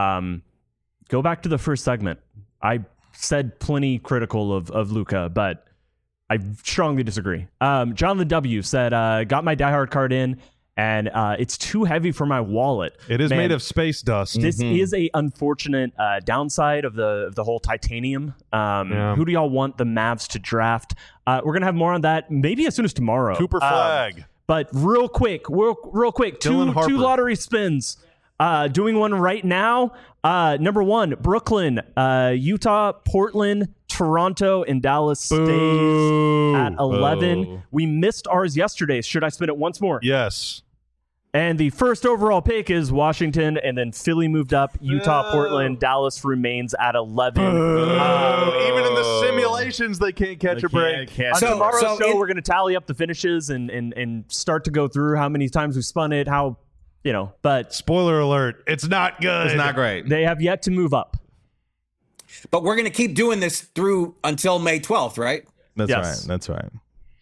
S2: Go back to the first segment. I said plenty critical of Luka, but I strongly disagree. Jonathan W. said, got my diehard card in, and it's too heavy for my wallet.
S3: It is made of space dust.
S2: This is a unfortunate downside of the whole titanium. Who do y'all want the Mavs to draft? We're going to have more on that maybe as soon as tomorrow.
S3: Cooper Flag.
S2: But real quick, two lottery spins. Doing one right now. Number 1, Brooklyn, Utah, Portland, Toronto, and Dallas stays at 11.
S3: Boo.
S2: We missed ours yesterday. Should I spin it once more?
S3: Yes.
S2: And the first overall pick is Washington, and then Philly moved up. Utah, Portland, Dallas remains at 11.
S3: Even in the simulations, they can't catch a break.
S2: On tomorrow's show, we're going to tally up the finishes and start to go through how many times we spun it, but
S3: spoiler alert, it's not good.
S1: It's not great.
S2: They have yet to move up.
S4: But we're going to keep doing this through until May 12th, right?
S1: That's right.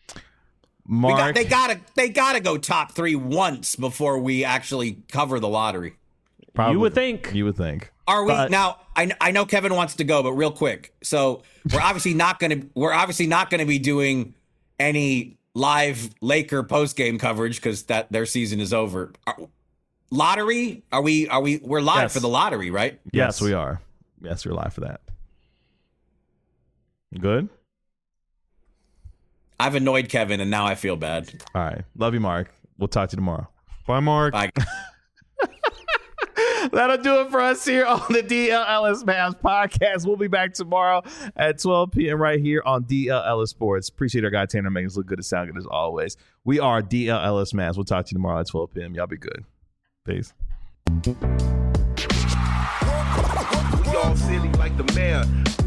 S1: Mark,
S4: they gotta go top 3 once before we actually cover the lottery.
S1: probably,
S2: You would think.
S4: Are we now? I know Kevin wants to go, but real quick. So we're obviously not going to be doing any live Laker post game coverage because their season is over. Lottery? We're live for the lottery, right?
S1: Yes, we are. Yes, we're live for that. Good.
S4: I've annoyed Kevin, and now I feel bad.
S1: All right. Love you, Mark. We'll talk to you tomorrow.
S3: Bye, Mark.
S4: Bye.
S1: That'll do it for us here on the DLLS Mavs podcast. We'll be back tomorrow at 12 p.m. right here on DLLS Sports. Appreciate our guy Tanner making us look good and sound good as always. We are DLLS Mavs. We'll talk to you tomorrow at 12 p.m. Y'all be good. Peace.
S5: We all silly like the mayor.